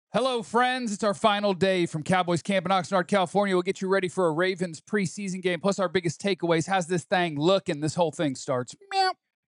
Hello, friends. It's our final day from Cowboys Camp in Oxnard, California. We'll get you ready for a Ravens preseason game, plus our biggest takeaways. How's this thing look? And this whole thing starts. Meow.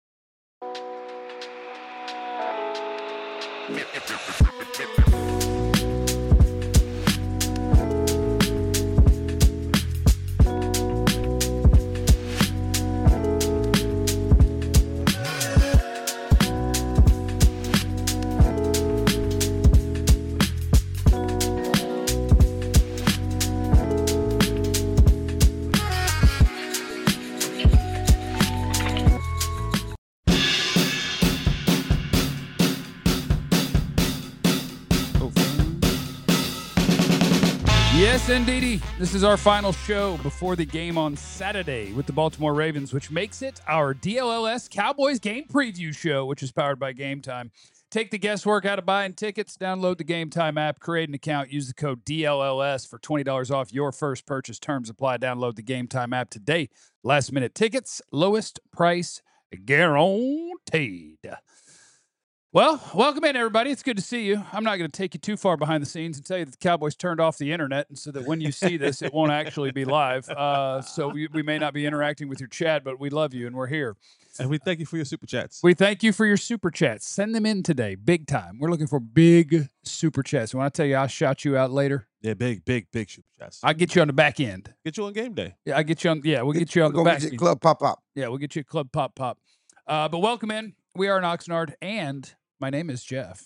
Yes, indeedy. This is our final show before the game on Saturday with the Baltimore Ravens, which makes it our DLLS Cowboys game preview show, which is powered by Game Time. Take the guesswork out of buying tickets, download the Game Time app, create an account, use the code DLLS for $20 off your first purchase. Terms apply. Download the Game Time app today. Last minute tickets, lowest price guaranteed. Well, welcome in, everybody. It's good to see you. I'm not going to take you too far behind the scenes and tell you that the Cowboys turned off the internet, and so that when you see this, it won't actually be live. So we may not be interacting with your chat, but we love you, and we're here. And we thank you for your super chats. We thank you for your super chats. Send them in today, big time. We're looking for big super chats. When I tell you I'll shout you out later, Yeah, big super chats. I'll get you on the back end. Get you on game day. Yeah, I get you on. Yeah, we'll get you on the back end. Club pop. Yeah, we'll get you a club pop. But welcome in. We are in Oxnard, and my name is Jeff.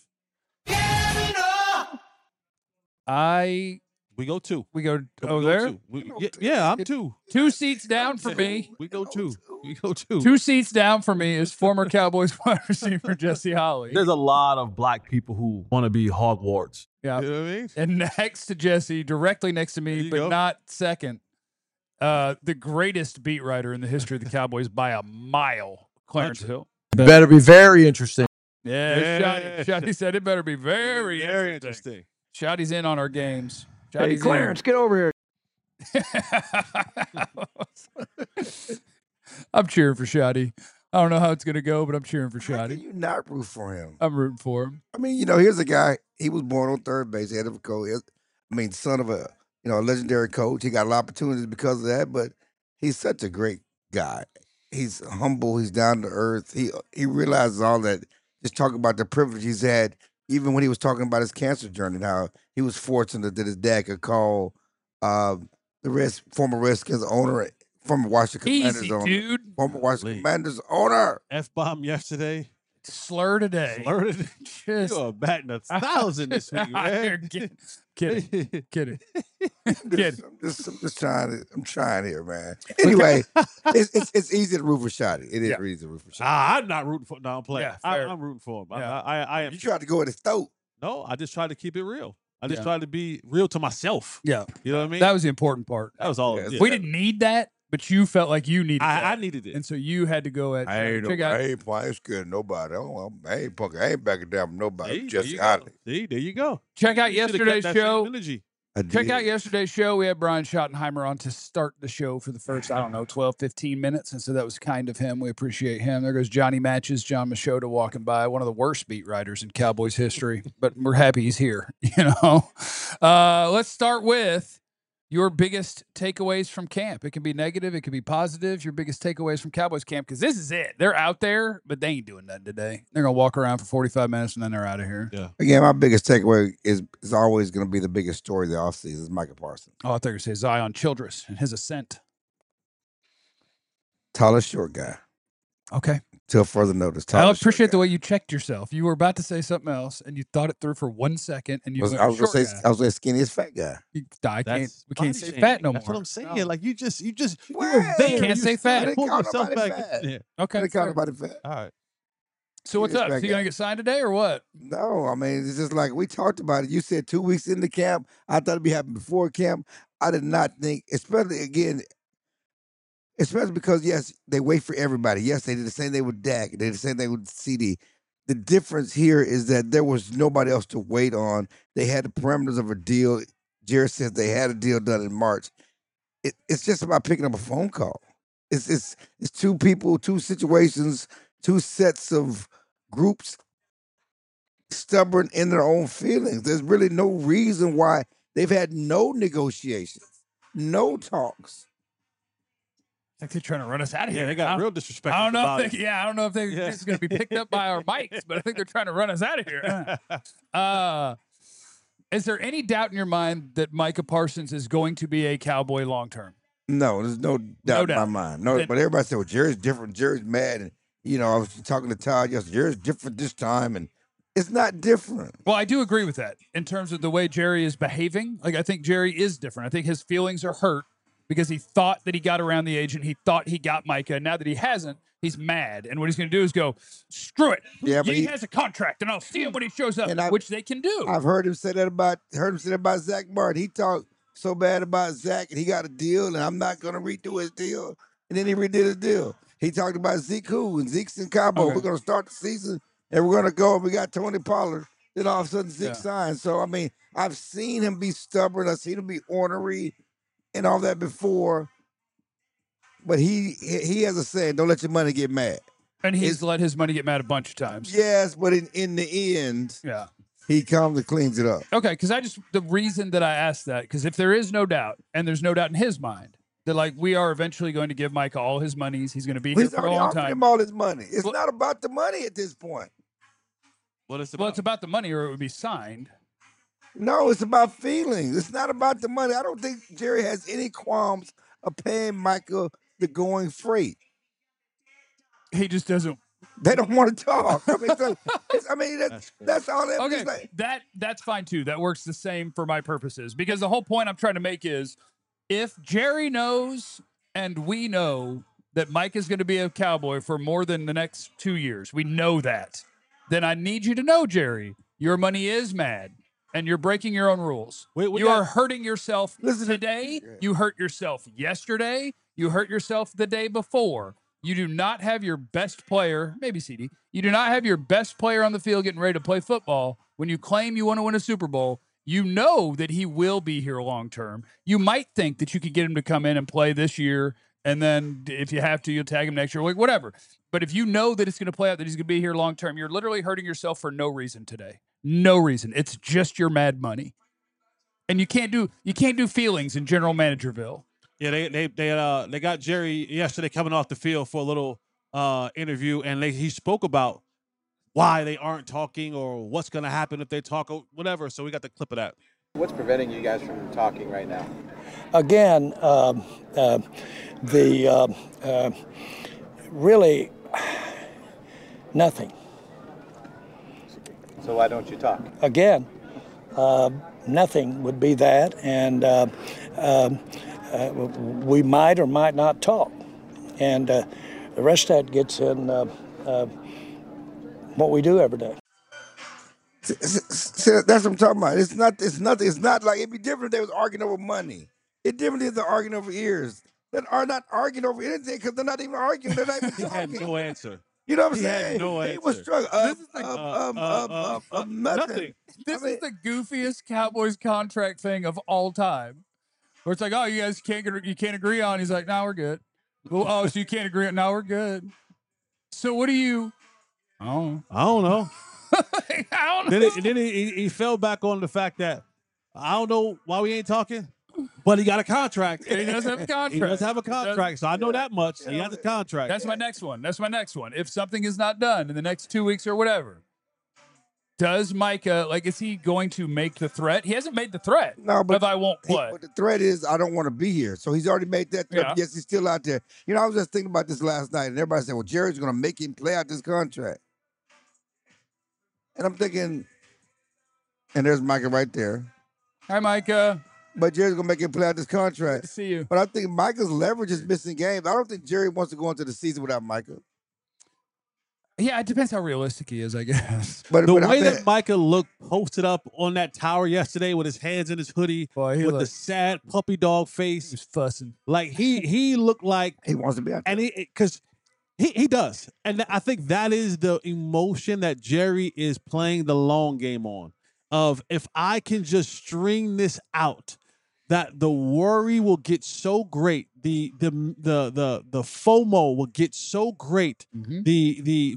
We go two. We go We over go there. two. Yeah, I'm two. 2 seats down for me. We go two. We go two. 2 seats down for me is former Cowboys wide receiver Jesse Holley. There's a lot of black people who want to be Hogwarts. Yeah. You know what I mean? And next to Jesse, directly next to There me, you but go. not second, the greatest beat writer in the history of the Cowboys by a mile, Clarence Hill. Better be very interesting. Yeah, Shotty said it better be very interesting. Shotty's in on our games. Hey, Shotty's Clarence, get over here. I'm cheering for Shotty. I don't know how it's going to go, but I'm cheering for How can Shotty. you not root for him? I'm rooting for him. I mean, here's a guy. He was born on third base, head of a coach. Son of a a legendary coach. He got a lot of opportunities because of that, but he's such a great guy. He's humble. He's down to earth. He realizes all that. Just talking about the privilege he's had, even when he was talking about his cancer journey, and how he was fortunate that his dad could call the former Redskins owner, former Washington Commanders Easy, owner, dude. former Washington Lee. Commanders owner. F-bomb yesterday. Slur today. Flirted. Just You are batting 1,000 this week, man. Kidding. I'm just trying. I'm trying here, man. Anyway, it's easy to root for Shotty. It is Yeah. easy to root for Shotty. I'm not rooting for. No, I'm playing. Yeah, fair. I'm rooting for him. Yeah. I am. You tried to go at his throat. No, I just tried to keep it real. I just Yeah. tried to be real to myself. Yeah, You know what I mean? that was the important part. That was all. Yeah, it did. We didn't need that, but you felt like you needed I that. needed it. And so you had to go at I check out. ain't scared of nobody. I ain't backing down from nobody. See, there Just you go. Holly. See, there you go. Check out You shoulda kept yesterday's that same show. energy. Check out yesterday's show. We had Brian Schottenheimer on to start the show for the first, 12, 15 minutes. And so that was kind of him. We appreciate him. There goes Johnny Matches, John Machota walking by, one of the worst beat writers in Cowboys history. But we're happy he's here, Let's start with your biggest takeaways from camp. It can be negative. It can be positive. Your biggest takeaways from Cowboys camp, because this is it. They're out there, but they ain't doing nothing today. They're going to walk around for 45 minutes, and then they're out of here. Yeah. Again, my biggest takeaway is always going to be the biggest story of the offseason is Micah Parsons. Oh, I thought you were going to say Zion Childress and his ascent. Tallest short guy. Okay. Till further notice. I Tallest short appreciate the guy. way you checked yourself. You were about to say something else, and you thought it through for 1 second, and you went, I was short going to say, guy. I was going to say skinniest fat guy. I can't. We can't body say shaming. fat no more. That's what I'm saying. No. Like you Well, were there. can't You say still fat. pulled Call yourself nobody back. fat. Yeah. Okay. They call fair. nobody fat. All right. So what's Skinniest up? fat So you guy. gonna get signed today or what? No, I mean, it's just like we talked about it. You said 2 weeks into camp. I thought it'd be happening before camp. I did not think, especially because, yes, they wait for everybody. Yes, they did the same thing with Dak. They did the same thing with CD. The difference here is that there was nobody else to wait on. They had the parameters of a deal. Jared says they had a deal done in March. It's just about picking up a phone call. It's two people, two situations, two sets of groups stubborn in their own feelings. There's really no reason why they've had no negotiations, no talks. I think they're trying to run us out of here. Yeah, they got real disrespectful. I don't know about if it. I don't know if it's going to be picked up by our mics, but I think they're trying to run us out of here. Is there any doubt in your mind that Micah Parsons is going to be a Cowboy long term? No, there's no doubt in my mind. No, but everybody said, well, Jerry's different. Jerry's mad. And, I was talking to Todd yesterday. Jerry's different this time. And it's not different. Well, I do agree with that in terms of the way Jerry is behaving. Like, I think Jerry is different. I think his feelings are hurt because he thought that he got around the agent. He thought he got Micah. And now that he hasn't, he's mad. And what he's going to do is go, screw it. Yeah, but he has a contract, and I'll see him when he shows up, which they can do. I've heard him say that about Zach Martin. He talked so bad about Zach, and he got a deal, and I'm not going to redo his deal. And then he redid his deal. He talked about Zeke who, and Zeke's in Cabo. Okay. We're going to start the season, and we're going to go, and we got Tony Pollard. Then all of a sudden, Zeke signed. So, I mean, I've seen him be stubborn. I've seen him be ornery and all that before. But he has a saying, don't let your money get mad. And he's let his money get mad a bunch of times. Yes, but in the end, he comes and cleans it up. Okay, because the reason that I asked that, because if there is no doubt, and there's no doubt in his mind, that like we are eventually going to give Micah all his monies, he's going to be here for a long time. Him all his money. It's not about the money at this point. What is it? Well, it's about the money, or it would be signed. No, it's about feelings. It's not about the money. I don't think Jerry has any qualms of paying Micah the going freight. He just doesn't. They don't want to talk. I mean, that's all. Okay, that's fine too. That works the same for my purposes, because the whole point I'm trying to make is, if Jerry knows and we know that Mike is going to be a Cowboy for more than the next 2 years, we know that, then I need you to know, Jerry, your money is mad. And you're breaking your own rules. You are hurting yourself today. You hurt yourself yesterday. You hurt yourself the day before. You do not have your best player, maybe CD. You do not have your best player on the field getting ready to play football when you claim you want to win a Super Bowl. You know that he will be here long term. You might think that you could get him to come in and play this year, and then if you have to, you'll tag him next year, like whatever. But if you know that it's going to play out, that he's going to be here long term, you're literally hurting yourself for no reason today. No reason. It's just your mad money, and you can't do feelings in General Managerville. Yeah, they got Jerry yesterday coming off the field for a little interview, and he spoke about why they aren't talking or what's going to happen if they talk or whatever. So we got the clip of that. What's preventing you guys from talking right now? Again, really nothing. So why don't you talk? Again, nothing would be that, and we might or might not talk. And the rest of that gets in what we do every day. See, that's what I'm talking about. It's not like it'd be different if they was arguing over money. It's different if they're arguing over ears. That are not arguing over anything because they're not even arguing. They're not even talking. He had no answer. You know what I'm He saying? had no He answer. was struggling. Nothing. This is the goofiest Cowboys contract thing of all time. Where it's like, oh, you guys can't agree on. He's like, no, we're good. Well, oh, so you can't agree on? No, we're good. So what do you? Oh, I don't know. I don't know. Then he fell back on the fact that I don't know why we ain't talking, but he got a contract. He does have a contract. He does have a contract, so I know that much. He has a contract. That's my next one. If something is not done in the next 2 weeks or whatever, does Micah, is he going to make the threat? He hasn't made the threat. No, but I won't play. But the threat is I don't want to be here. So he's already made that threat. Yeah. Yes, he's still out there. I was just thinking about this last night, and everybody said, well, Jerry's going to make him play out this contract. And I'm thinking, and there's Micah right there. Hi, Micah. But Jerry's going to make him play out this contract. Good to see you. But I think Micah's leverage is missing games. I don't think Jerry wants to go into the season without Micah. Yeah, it depends how realistic he is, I guess. But the way that Micah looked posted up on that tower yesterday with his hands in his hoodie, with the sad puppy dog face, he was fussing. Like he looked like he wants to be out there. And because he does, and I think that is the emotion that Jerry is playing the long game on. Of if I can just string this out, that the worry will get so great, the FOMO will get so great, Mm-hmm. the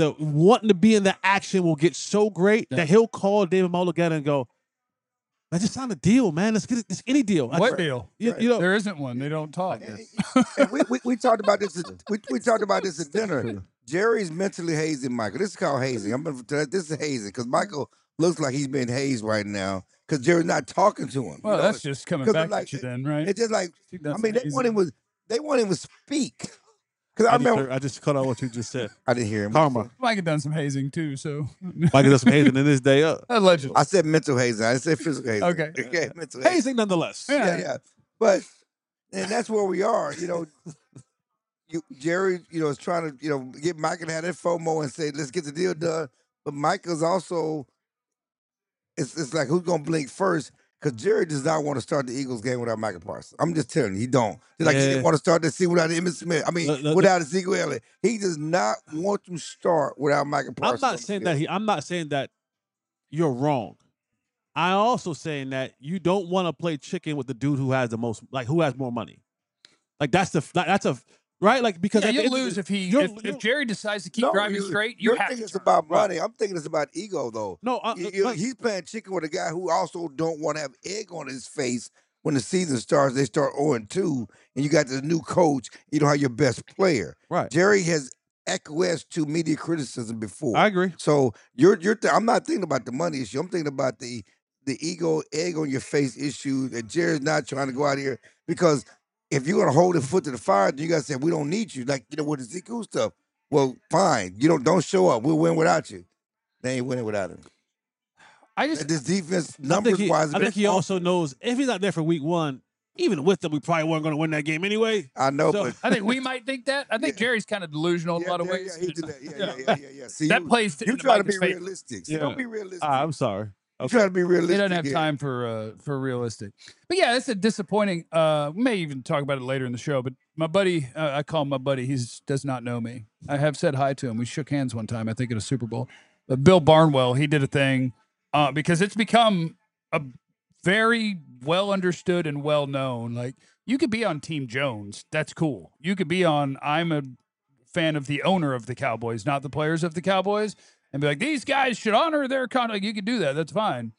the wanting to be in the action will get so great that he'll call David Mulligata and go, "I just signed a deal, man. Let's get it. Just any deal." What deal? You know, There isn't one. They don't talk. And we talked about this. We talked about this at dinner. Jerry's mentally hazing Michael. This is called hazing. This is hazing because Michael looks like he's being hazed right now because Jerry's not talking to him. Well, you know? that's just coming back like, at you then, right? It's just like That's I mean, hazing. they want him to speak. Because I remember I just cut out what you just said. I didn't hear him. Karma. Mike had done some hazing too, so Mike does some hazing in his day up. allegedly. I said mental hazing. I didn't say physical hazing. Okay. Mental hazing. Hazing nonetheless. Yeah. But and that's where we are. You know, Jerry, is trying to, get Michael to have that FOMO and say, let's get the deal done. But Michael's also, it's like who's gonna blink first? Because Jerry does not want to start the Eagles game without Michael Parsons. I'm just telling you, he don't. Just like he didn't want to start the season without Emmitt Smith. I mean, without Ezekiel Elliott. He does not want to start without Michael Parsons. I'm not saying that you're wrong. I'm also saying that you don't want to play chicken with the dude who has the most, like who has more money. Like that's a right? Like because you'll lose if Jerry decides to keep driving straight. You have think it's about money. I'm thinking it's about ego, though. No, he's playing chicken with a guy who also don't want to have egg on his face when the season starts. They start 0-2, and you got the new coach. You don't have your best player. Right. Jerry has acquiesced to media criticism before. I agree. So I'm not thinking about the money issue. I'm thinking about the ego, egg on your face issue that Jerry's not trying to go out here because. If you're gonna hold his foot to the fire, then you gotta say we don't need you. Like with the Ezekiel stuff. Well, fine. You don't show up. We'll win without you. They ain't winning without him. This defense numbers wise. I think he also knows if he's not there for week 1, even with them, we probably weren't gonna win that game anyway. I know, but I think we might think that. I think Jerry's kind of delusional in a lot of ways. Yeah, he did that. Yeah. See, that plays. You try to be realistic. See, don't be realistic. I'm sorry. Okay. Try to be realistic. He doesn't have time for realistic. But yeah, that's a disappointing. We may even talk about it later in the show. But my buddy, I call him my buddy. He does not know me. I have said hi to him. We shook hands one time, I think, at a Super Bowl. But Bill Barnwell, he did a thing because it's become a very well understood and well known. Like you could be on Team Jones. That's cool. You could be on. I'm a fan of the owner of the Cowboys, not the players of the Cowboys. And be like, these guys should honor their contract. You could do that. That's fine.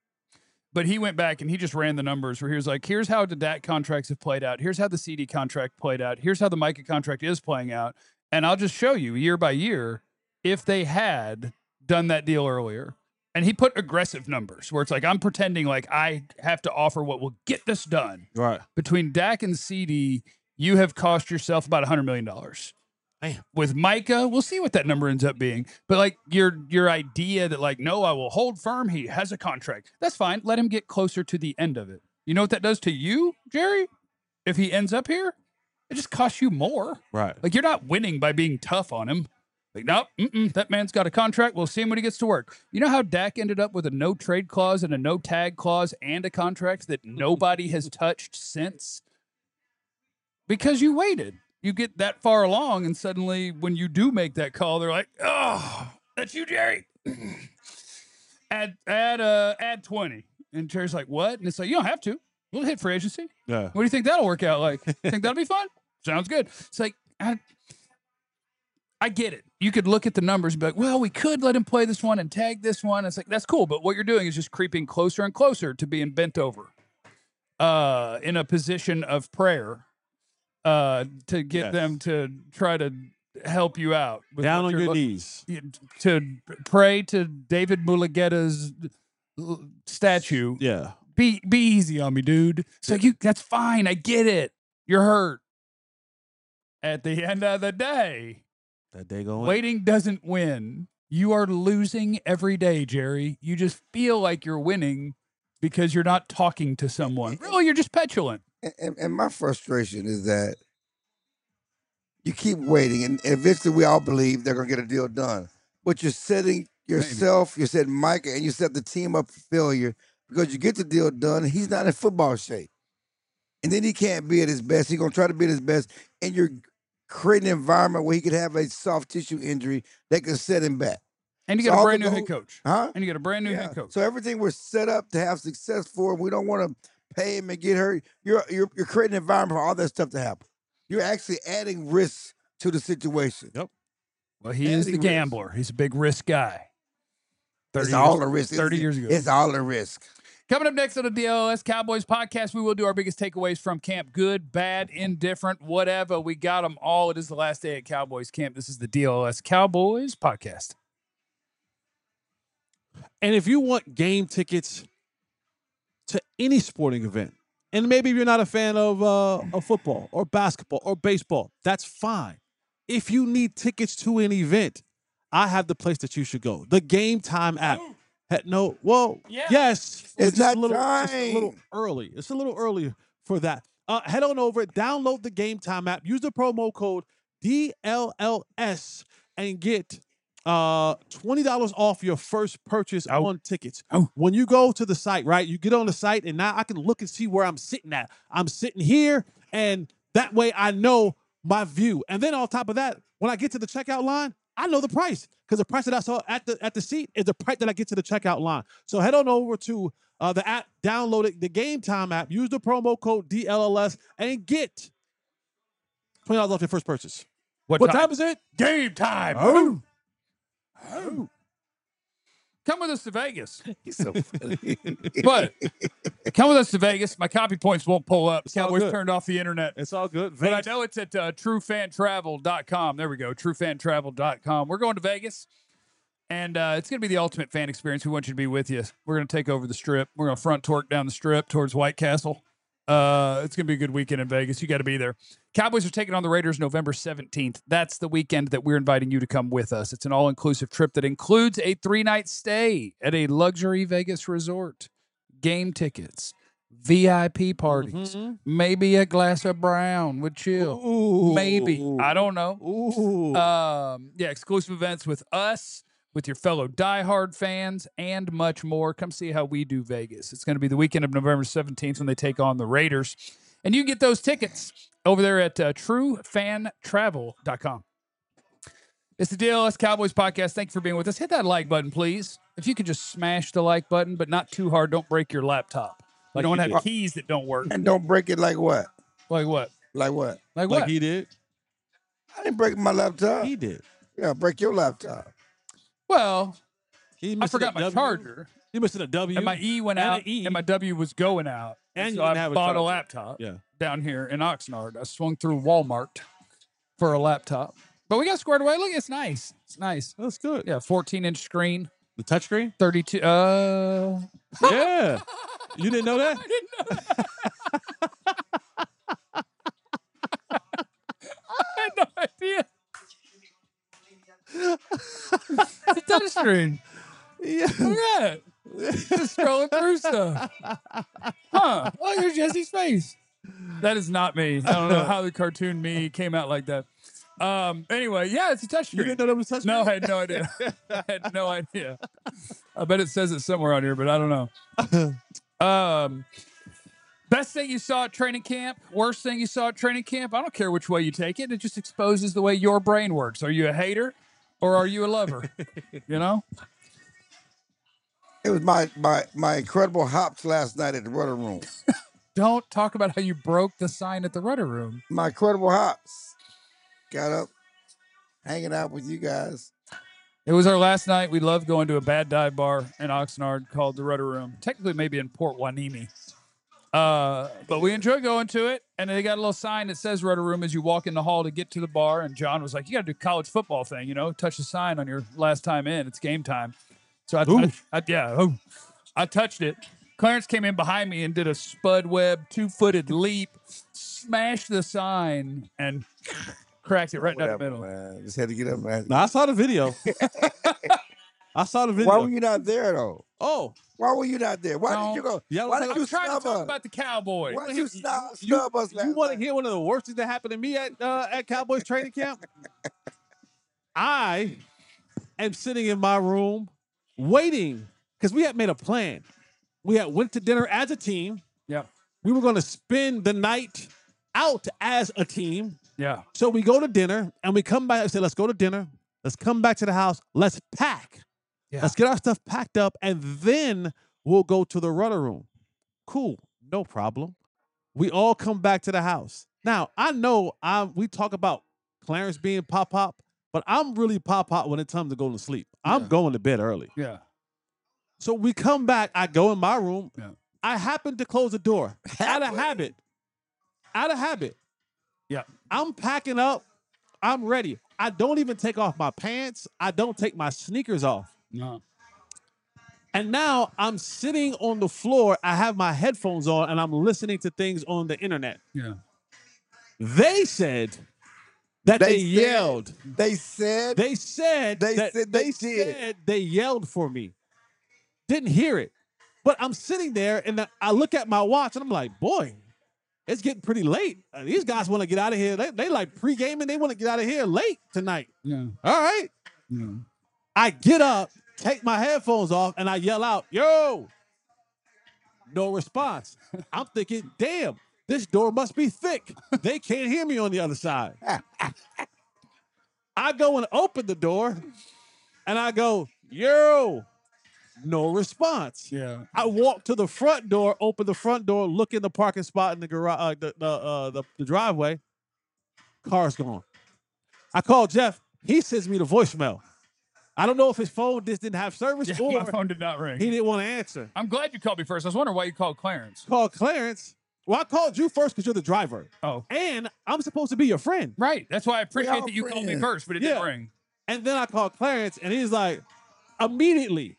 But he went back and he just ran the numbers where he was like, here's how the Dak contracts have played out. Here's how the CD contract played out. Here's how the Micah contract is playing out. And I'll just show you year by year if they had done that deal earlier. And he put aggressive numbers where it's like, I'm pretending like I have to offer what will get this done. Right. Between Dak and CD, you have cost yourself about $100 million. Damn. With Micah, we'll see what that number ends up being. But like your idea that like, no, I will hold firm. He has a contract. That's fine. Let him get closer to the end of it. You know what that does to you, Jerry? If he ends up here, it just costs you more. Right. Like you're not winning by being tough on him. Like, nope, that man's got a contract. We'll see him when he gets to work. You know how Dak ended up with a no trade clause and a no tag clause and a contract that nobody has touched since? Because you waited. You get that far along, and suddenly when you do make that call, they're like, oh, that's you, Jerry. add 20. And Jerry's like, what? And it's like, you don't have to. We'll hit free agency. Yeah. What do you think that'll work out like? Think that'll be fun? Sounds good. It's like, I get it. You could look at the numbers and be like, well, we could let him play this one and tag this one. It's like, that's cool. But what you're doing is just creeping closer and closer to being bent over in a position of prayer. To get them to try to help you out. Down on your knees. To pray to David Mulligata's statue. Yeah. Be easy on me, dude. It's like, that's fine. I get it. You're hurt. At the end of the day, waiting doesn't win. You are losing every day, Jerry. You just feel like you're winning because you're not talking to someone. Really, you're just petulant. And my frustration is that you keep waiting, and eventually we all believe they're going to get a deal done. But you're setting yourself, you set Micah, and you set the team up for failure because you get the deal done, and he's not in football shape. And then he can't be at his best. He's going to try to be at his best, and you're creating an environment where he could have a soft tissue injury that could set him back. And you get a brand new head coach. Huh? And you get a brand new head coach. So everything we're set up to have success for, we don't want to pay him and get hurt. You're creating an environment for all that stuff to happen. You're actually adding risks to the situation. Yep. Well, he is the gambler. He's a big risk guy. It's all a risk. 30 years ago. It's all a risk. Coming up next on the DLS Cowboys podcast, we will do our biggest takeaways from camp. Good, bad, indifferent, whatever. We got them all. It is the last day at Cowboys camp. This is the DLS Cowboys podcast. And if you want game tickets to any sporting event, and maybe you're not a fan of football or basketball or baseball, that's fine. If you need tickets to an event, I have the place that you should go. The Game Time app. Yes. It's just not a little, time. just a little early. It's a little early for that. Head on over, download the Game Time app, use the promo code DLLS, and get $20 off your first purchase on tickets. When you go to the site, right, you get on the site, and now I can look and see where I'm sitting at. I'm sitting here, and that way I know my view. And then on top of that, when I get to the checkout line, I know the price, because the price that I saw at the seat is the price that I get to the checkout line. So head on over to the app, download it, the Game Time app, use the promo code DLLS, and get $20 off your first purchase. What time is it? Game time. Oh. Come with us to Vegas. He's so funny. But come with us to Vegas. My copy points won't pull up. all Cowboys good. turned off the internet. It's all good. But I know it's at truefantravel.com. There we go, truefantravel.com. We're going to Vegas, and it's going to be the ultimate fan experience. We want you to be with you. We're going to take over the Strip. We're going to front torque down the Strip towards White Castle. It's going to be a good weekend in Vegas. You got to be there. Cowboys are taking on the Raiders November 17th. That's the weekend that we're inviting you to come with us. It's an all-inclusive trip that includes a 3-night stay at a luxury Vegas resort, game tickets, VIP parties, maybe a glass of brown with chill. Ooh. Maybe. I don't know. Ooh. Yeah, exclusive events with us, with your fellow diehard fans, and much more. Come see how we do Vegas. It's going to be the weekend of November 17th when they take on the Raiders. And you can get those tickets over there at truefantravel.com. It's the DLS Cowboys podcast. Thank you for being with us. Hit that like button, please. If you could just smash the like button, but not too hard. Don't break your laptop. You don't have keys that don't work. And don't break it like what? Like what? Like what? Like what? Like he did. I didn't break my laptop. He did. Yeah, break your laptop. Well, He I missed forgot a my W. charger. He missed a W. And my E went and out, an E. and my W was going out. And so you didn't I have a bought a charger. laptop Yeah. down here in Oxnard. I swung through Walmart for a laptop. But we got squared away. Look, it's nice. It's nice. That's good. Yeah, 14-inch screen, The touchscreen? 32. Yeah. You didn't know that? I didn't know that. I had no idea. It's a touch screen. Yeah. Look at that. Just scrolling through stuff. Huh. Oh, there's Jesse's face. That is not me. I don't know how the cartoon me came out like that. Anyway, yeah, it's a touch You screen. didn't know that was touchscreen? No, I had no idea. I had no idea. I bet it says it somewhere on here, but I don't know. Best thing you saw at training camp, worst thing you saw at training camp, I don't care which way you take it. It just exposes the way your brain works. Are you a hater or are you a lover? You know? It was my incredible hops last night at the Rudder Room. Don't talk about how you broke the sign at the Rudder Room. My incredible hops. Got up, hanging out with you guys. It was our last night. We love going to a bad dive bar in Oxnard called the Rudder Room. Technically, maybe in Port Hueneme. But we enjoy going to it. And they got a little sign that says Rudder Room as you walk in the hall to get to the bar. And John was like, you got to do college football thing, you know, touch the sign on your last time in. It's game time. So I touched it. Clarence came in behind me and did a spud web 2-footed leap, smashed the sign, and cracked it right down the middle. Man. Just had to get up, man. No, I saw the video. I saw the video. Why were you not there, though? Oh. Why were you not there? Why No. did you go? Yeah, Why I'm did you Trying to snub talk us? about the Cowboys. Why did you snub us last You want to night? hear one of the worst things that happened to me at Cowboys training camp? I am sitting in my room waiting because we had made a plan. We had went to dinner as a team. Yeah. We were going to spend the night out as a team. Yeah. So we go to dinner and we come back and say, let's go to dinner. Let's come back to the house. Let's pack. Yeah. Let's get our stuff packed up and then we'll go to the Rudder Room. Cool. No problem. We all come back to the house. Now, I know we talk about Clarence being pop-pop. but I'm really pop when it's time to go to sleep. I'm going to bed early. Yeah. So we come back. I go in my room. Yeah. I happen to close the door out of habit. Out of habit. Yeah. I'm packing up. I'm ready. I don't even take off my pants. I don't take my sneakers off. No. And now I'm sitting on the floor. I have my headphones on and I'm listening to things on the internet. Yeah. They said that they yelled. They said They said they yelled for me. Didn't hear it. But I'm sitting there and I look at my watch and I'm like, boy, it's getting pretty late. These guys want to get out of here. They like pre-gaming. They want to get out of here late tonight. Yeah. All right. Yeah. I get up, take my headphones off, and I yell out, yo. No response. I'm thinking, damn, this door must be thick. They can't hear me on the other side. I go and open the door, and I go, yo. No response. Yeah. I walk to the front door, open the front door, look in the parking spot in the garage, the driveway. Car's gone. I call Jeff. He sends me the voicemail. I don't know if his phone just didn't have service or My phone did not ring. he didn't want to answer. I'm glad you called me first. I was wondering why you called Clarence. Called Clarence. Well, I called you first because you're the driver. Oh. And I'm supposed to be your friend. Right. That's why I appreciate all that you called me friends. first, but it didn't ring. And then I called Clarence, and he's like, immediately,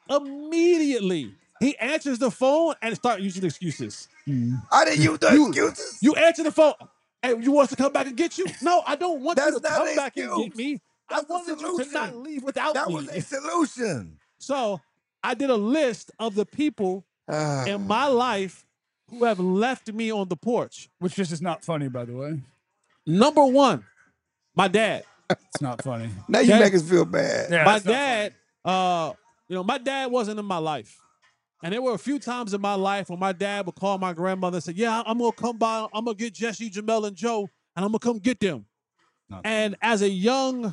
he answers the phone and start using excuses. I didn't use the excuses. You answer the phone. Hey, you want us to come back and get you? No, I don't want you That's to not come an back and excuse. get me. That's I the wanted you to solution. not leave without That me. was a solution. So I did a list of the people in my life who have left me on the porch. Which just is not funny, by the way. Number one, my dad. It's not funny. Now you make us feel bad. Yeah, My it's not dad, my dad wasn't in my life. And there were a few times in my life when my dad would call my grandmother and say, yeah, I'm going to come by. I'm going to get Jesse, Jamel, and Joe, and I'm going to come get them. And as a young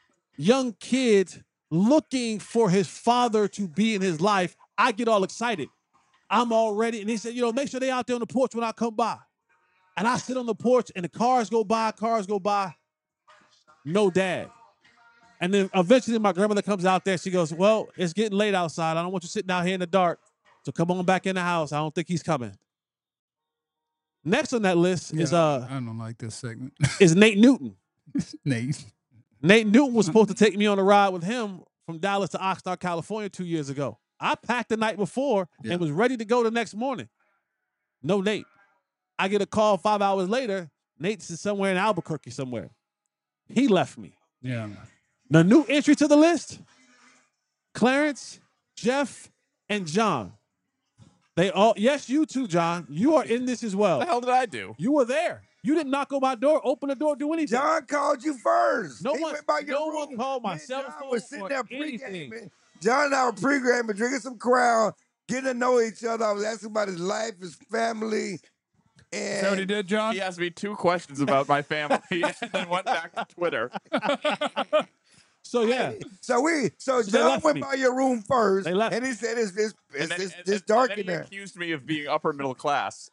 kid looking for his father to be in his life, I get all excited. I'm all ready. And he said, make sure they out there on the porch when I come by. And I sit on the porch and the cars go by. No dad. And then eventually my grandmother comes out there. She goes, well, it's getting late outside. I don't want you sitting out here in the dark. So come on back in the house. I don't think he's coming. Next on that list is I don't like this segment. is Nate Newton. Nate. Nate Newton was supposed to take me on a ride with him from Dallas to Oxnard, California 2 years ago. I packed the night before and was ready to go the next morning. No Nate. I get a call 5 hours later. Nate's somewhere in Albuquerque somewhere. He left me. Yeah. The new entry to the list, Clarence, Jeff, and John. They all, yes, you too, John. You are in this as well. What the hell did I do? You were there. You didn't knock on my door, open the door, do anything. John called you first. No He one- went by your no room. one called my Me and cell John phone was sitting or there anything. pre-gaming. John and I were pre-gaming, drinking some Crown, getting to know each other. I was asking about his life, his family. Is that what he did, John? He asked me 2 questions about my family and then went back to Twitter. So yeah, So they John left went me. by your room first, They left and he said it's And dark then in he there. accused me of being upper middle class.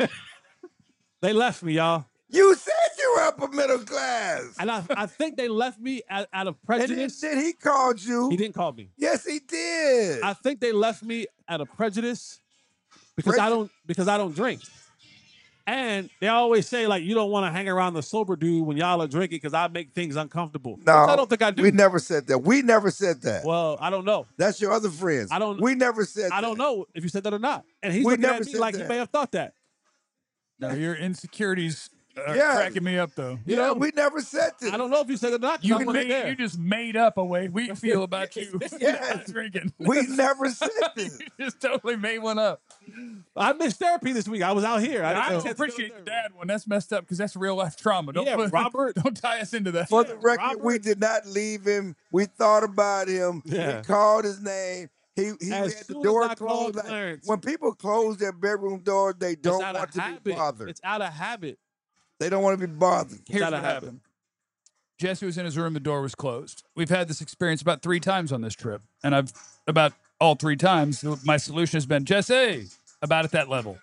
they left me, y'all. You said you were upper middle class. And I think they left me out of And prejudice. then he called you. He didn't call me. Yes, he did. I think they left me out of prejudice because I don't drink. And they always say, like, you don't want to hang around the sober dude when y'all are drinking because I make things uncomfortable. No, Which I don't think I do. We never said that. We never said that. Well, I don't know. That's your other friends. We never said that. I don't know if you said that or not. And he's We looking never at me said like he that. may have thought that. No, your insecurities are Yeah. cracking me up, though. You know, we never said this. I don't know if you said it or not. 'cause I wasn't there. You just made up a way we feel about you Yes. not drinking. We never said this. You just totally made one up. I missed therapy this week. I was out here. I didn't don't get to go appreciate to the therapy. dad one. That's messed up because that's real life trauma. Don't Yeah, Robert. Don't tie us into that. For the record, Robert. we did not leave him. We thought about him. Yeah. We called his name. He As had the soon as door I called closed. Like, Clarence- when people close their bedroom door, they It's don't out want of to habit. be bothered. It's out of habit. They don't want to be bothered. Here's out what of habit. happened. Jesse was in his room. The door was closed. We've had this experience about 3 times on this trip. And I've, about all 3 times, my solution has been, Jesse, about at that level.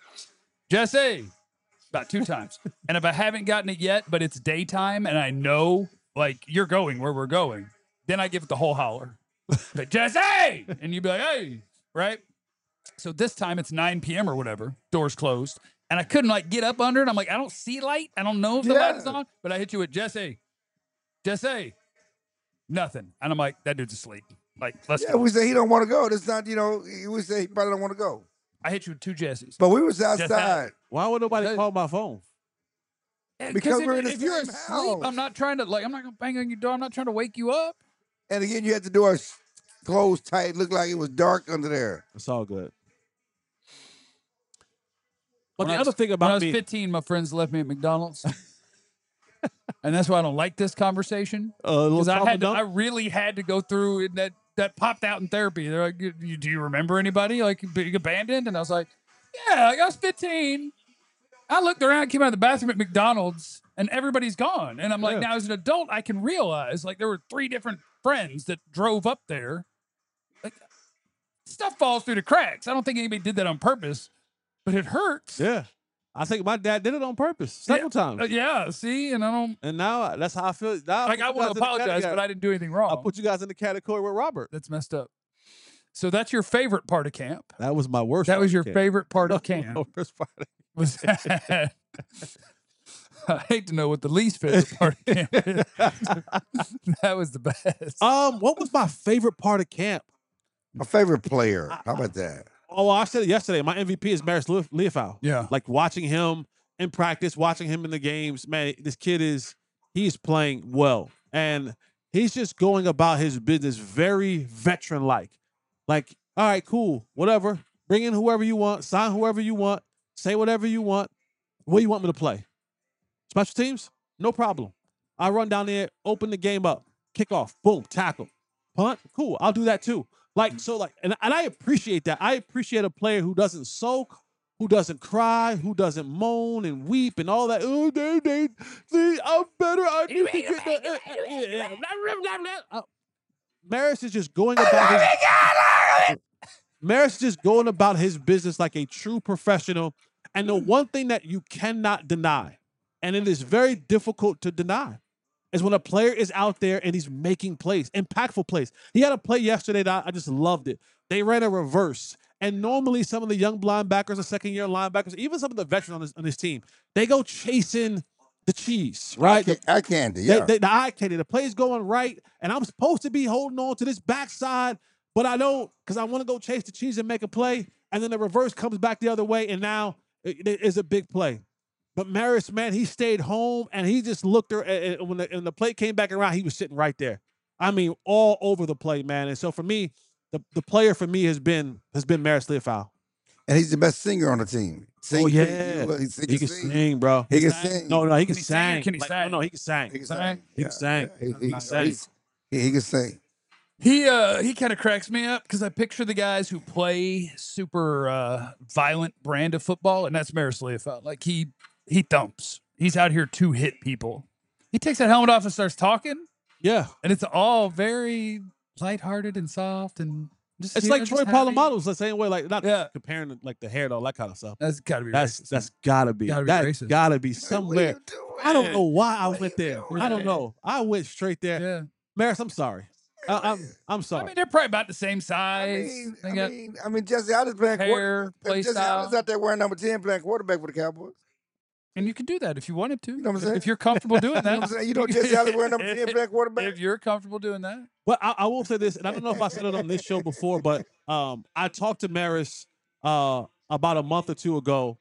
Jesse, about 2 times. And if I haven't gotten it yet, but it's daytime and I know like you're going where we're going. Then I give it the whole holler, like, Jesse, and you'd be like, hey, right? So this time it's 9 p.m. or whatever, doors closed, and I couldn't like get up under it. I'm like, I don't see light. I don't know if the light is on, but I hit you with Jesse, nothing, and I'm like, that dude's asleep. Like, let's go. We say he don't want to go. That's not, we say he probably don't want to go. I hit you with 2 Jessies. But we was outside. Why would nobody call my phone? Because we're in the if you're same asleep, house. I'm not trying to I'm not gonna bang on your door. I'm not trying to wake you up. And again, you had the door closed tight. Looked like it was dark under there. It's all good. But When the other thing about when I was me, 15, my friends left me at McDonald's. And that's why I don't like this conversation. because I really had to go through it, that popped out in therapy. They're like, do you remember anybody like being abandoned? And I was like, yeah, like I was 15. I looked around, came out of the bathroom at McDonald's, and everybody's gone. And I'm like, now as an adult, I can realize like there were 3 different friends that drove up there. Like stuff falls through the cracks. I don't think anybody did that on purpose, but it hurts. yeah, I think my dad did it on purpose several times. Yeah, see, and I don't. And now that's how I feel. Now Like I want to apologize, but I didn't do anything wrong. I'll put you guys in the category with Robert. That's messed up. So that's your favorite part of camp. That was my worst. That part was of your camp. favorite part of No, camp. my worst part of- Was that? I hate to know what the least favorite part of camp is. That was the best. What was my favorite part of camp? My favorite player. How about that? Oh, I said it yesterday. My MVP is Maris Leofau. Yeah. Like watching him in practice, watching him in the games. Man, this kid he's playing well. And he's just going about his business very veteran-like. Like, all right, cool, whatever. Bring in whoever you want, sign whoever you want, say whatever you want. What do you want me to play? Special teams? No problem. I run down there, open the game up, kick off, boom, tackle, punt. Cool, I'll do that too. And I appreciate that. I appreciate a player who doesn't sulk, who doesn't cry, who doesn't moan and weep and all that. Oh, I'm better. I need to get Maris is just going about Maris is just going about his business like a true professional. And the one thing that you cannot deny, and it is very difficult to deny, is when a player is out there and he's making plays, impactful plays. He had a play yesterday that I just loved it. They ran a reverse. And normally some of the young linebackers, the second-year linebackers, even some of the veterans on this team, they go chasing the cheese, right? Eye candy, yeah. The eye candy. The play's going right, and I'm supposed to be holding on to this backside, but I don't because I want to go chase the cheese and make a play, and then the reverse comes back the other way, and now it is a big play. But Maris, man, he stayed home, and he just looked there, and when the play came back around, he was sitting right there. I mean, all over the play, man. And so for me, the player for me has been Maris Leofau. And he's the best singer on the team. Oh, yeah. He can sing, bro. He can sing. No, he can he sing or sing. can he sing? No, he can sing. He can sing. He can sing. He can sing. sing. He can sing. He kind of cracks me up because I picture the guys who play super violent brand of football, and that's Maris Leofau. Like he thumps. He's out here to hit people. He takes that helmet off and starts talking. Yeah. And it's all very lighthearted and soft and just It's like Troy Polamalu's the same way, like not comparing like the hair and all that kind of stuff. That's gotta be That's gotta be racist. Gotta be somewhere. I don't know why I went there. I don't know. I went straight there. Yeah. Maris, I'm sorry. I'm sorry. I mean, they're probably about the same size. I mean, Jesse Allen's playing hair, play Jesse style. Allen's out there wearing number 10 playing quarterback for the Cowboys. And you can do that if you wanted to. You know what I'm saying? If you're comfortable doing You know that. what I'm saying? You know Jesse Allen wearing number 10 playing quarterback? If you're comfortable doing that. Well, I will say this, and I don't know if I said it on this show before, but I talked to Maris about a month or two ago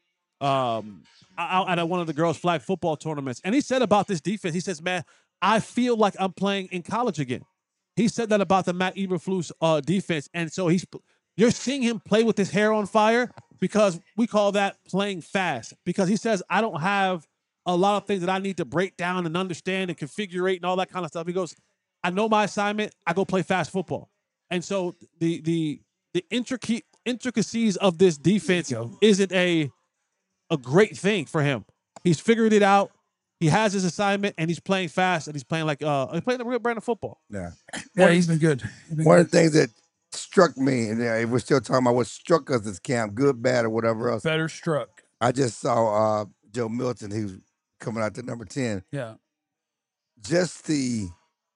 at one of the girls' flag football tournaments, and he said about this defense, he says, man, I feel like I'm playing in college again. He said that about the Matt Eberflus defense, and so you're seeing him play with his hair on fire because we call that playing fast, because he says, I don't have a lot of things that I need to break down and understand and configure and all that kind of stuff. He goes, I know my assignment. I go play fast football. And so the intricacies of this defense isn't a great thing for him. He's figured it out. He has his assignment, and he's playing fast, and he's playing he's playing the real brand of football. Yeah. Yeah, he's been good. One of the things that struck me, and if we're still talking about what struck us this camp, good, bad, or whatever else. Better struck. I just saw Joe Milton. He was coming out to number 10. Yeah. just the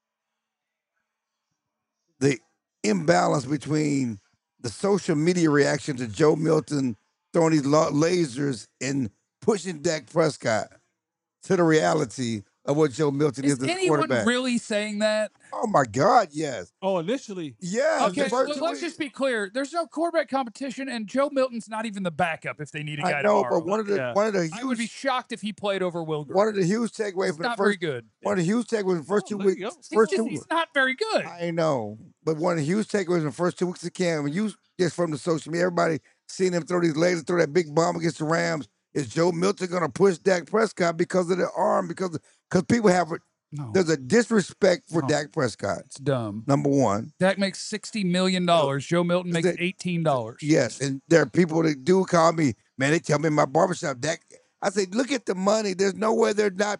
imbalance between the social media reaction to Joe Milton throwing these lasers and pushing Dak Prescott to the reality of what Joe Milton is Is as a anyone quarterback. really saying that? Oh my God, yes. Oh, initially. Yes. Okay, the first let's two just be clear. There's no quarterback competition, and Joe Milton's not even the backup if they need a guy I know, tomorrow. but one of the I would be huge shocked if he played over Will Grier. one of the huge takeaways He's from the not very first good. one of the huge takeaways from the first 2 there you weeks. go. He's not very good. I know, but one of the huge takeaways in the first 2 weeks of camp, when you just from the social media, everybody seeing him throw these lasers, throw that big bomb against the Rams. Is Joe Milton going to push Dak Prescott because of the arm? Because people have No, there's a disrespect for No. Dak Prescott. it's dumb. Number one, Dak makes $60 million. Joe Milton makes $18. yes, and there are people that do call me, man. They tell me in my barbershop, Dak. I say, look at the money. There's no way they're not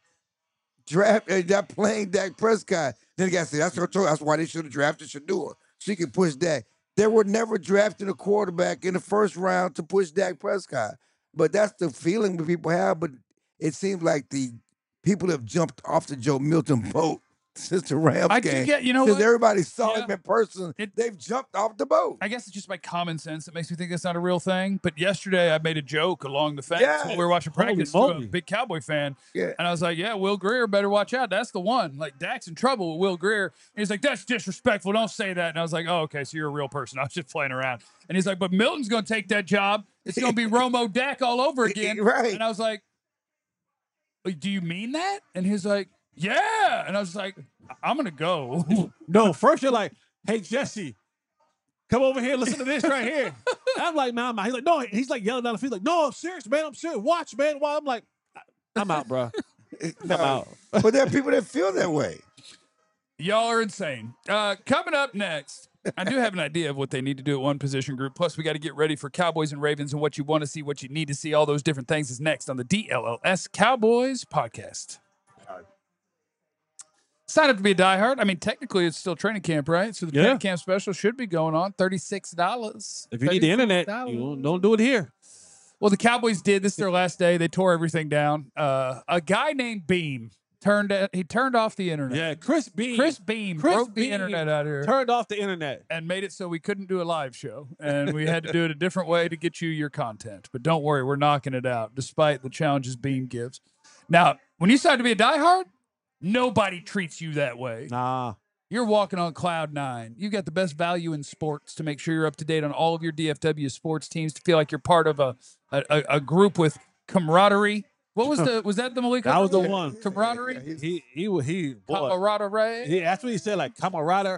not playing Dak Prescott. Then the guy said, that's why they should have drafted Shador. So he can push Dak. They were never drafting a quarterback in the first round to push Dak Prescott. But that's the feeling that people have. But it seems like the people have jumped off the Joe Milton boat since the Rams I game. do get, you know Since what? everybody saw Yeah. him in person, they've jumped off the boat. I guess it's just my common sense that makes me think that's not a real thing. But yesterday I made a joke along the fence Yes. while we were watching Holy practice to a moly. big Cowboy fan. Yeah. And I was like, yeah, Will Grier better watch out. That's the one. Like, Dak's in trouble with Will Grier. And he's like, that's disrespectful. Don't say that. And I was like, oh, okay, so you're a real person. I was just playing around. And he's like, but Milton's going to take that job. It's going to be Romo Dak all over again. Right. And I was like, do you mean that? And he's like, yeah. And I was like, I'm going to go. No, first you're like, hey, Jesse, come over here, listen to this right here. I'm like, man, I'm out. He's like, no, he's like yelling down the field, like, no, I'm serious, man, I'm serious. Watch, man. While I'm like, I'm out, bro. I'm out. But there are people that feel that way. Y'all are insane. Coming up next, I do have an idea of what they need to do at one position group. Plus, we got to get ready for Cowboys and Ravens and what you want to see, what you need to see. All those different things is next on the DLLS Cowboys podcast. Sign up to be a diehard. I mean, technically, it's still training camp, right? So the Yeah. training camp special should be going on. $36. If you need the internet, you don't do it here. Well, the Cowboys did. This is their last day. They tore everything down. A guy named Beam turned off the internet. Yeah, Chris Beam Broke the internet out here turned off the internet. and made it so we couldn't do a live show. And we had to do it a different way to get you your content. But don't worry, we're knocking it out despite the challenges Beam gives. Now, when you decide to be a diehard, nobody treats you that way. Nah. You're walking on cloud nine. You got the best value in sports to make sure you're up to date on all of your DFW sports teams, to feel like you're part of a group with camaraderie. What was that the Malik? That was the one. Camaraderie? He boy. Camaraderie? He, that's what he said, like camarada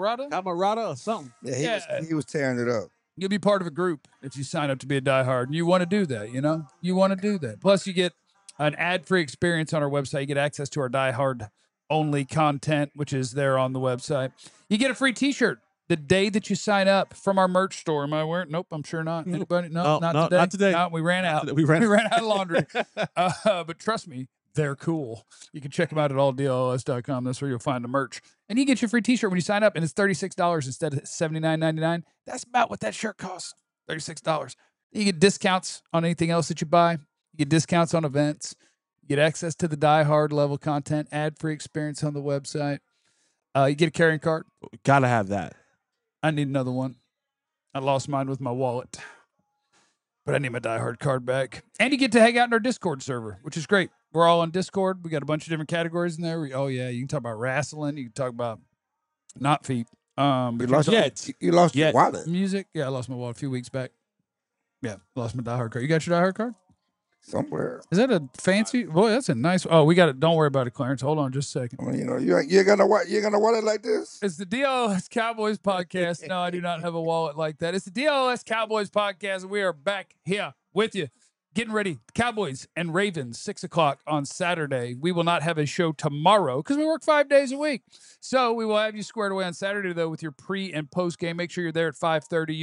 or something. Yeah, he was tearing it up. You'll be part of a group if you sign up to be a diehard, and you want to do that, you know? You want to do that. Plus, you get an ad-free experience on our website. You get access to our diehard-only content, which is there on the website. You get a free T-shirt the day that you sign up from our merch store. Am I wearing? Nope, I'm sure not. Anybody? No, not today. Not today. No, we ran out. We ran out of laundry. But trust me, they're cool. You can check them out at alldls.com. That's where you'll find the merch. And you get your free T-shirt when you sign up, and it's $36 instead of $79.99. That's about what that shirt costs, $36. You get discounts on anything else that you buy. You get discounts on events. You get access to the diehard level content, ad-free experience on the website. You get a carrying card. Gotta have that. I need another one. I lost mine with my wallet, but I need my diehard card back. And you get to hang out in our Discord server, which is great. We're all on Discord. We got a bunch of different categories in there. Oh yeah, you can talk about wrestling. You can talk about not feet. But You lost your wallet. music. Yeah, I lost my wallet a few weeks back. Yeah, lost my diehard card. You got your diehard card? Somewhere. Is that a fancy? Boy, that's a nice. Oh, we got it. Don't worry about it, Clarence. Hold on just a second. I mean, you know, you're gonna wallet like this. It's the DLS Cowboys podcast. No, I do not have a wallet like that. It's the DLS Cowboys podcast. We are back here with you, getting ready. Cowboys and Ravens, 6:00 on Saturday. We will not have a show tomorrow because we work 5 days a week. So we will have you squared away on Saturday, though, with your pre and post game. Make sure you're there at 5:30,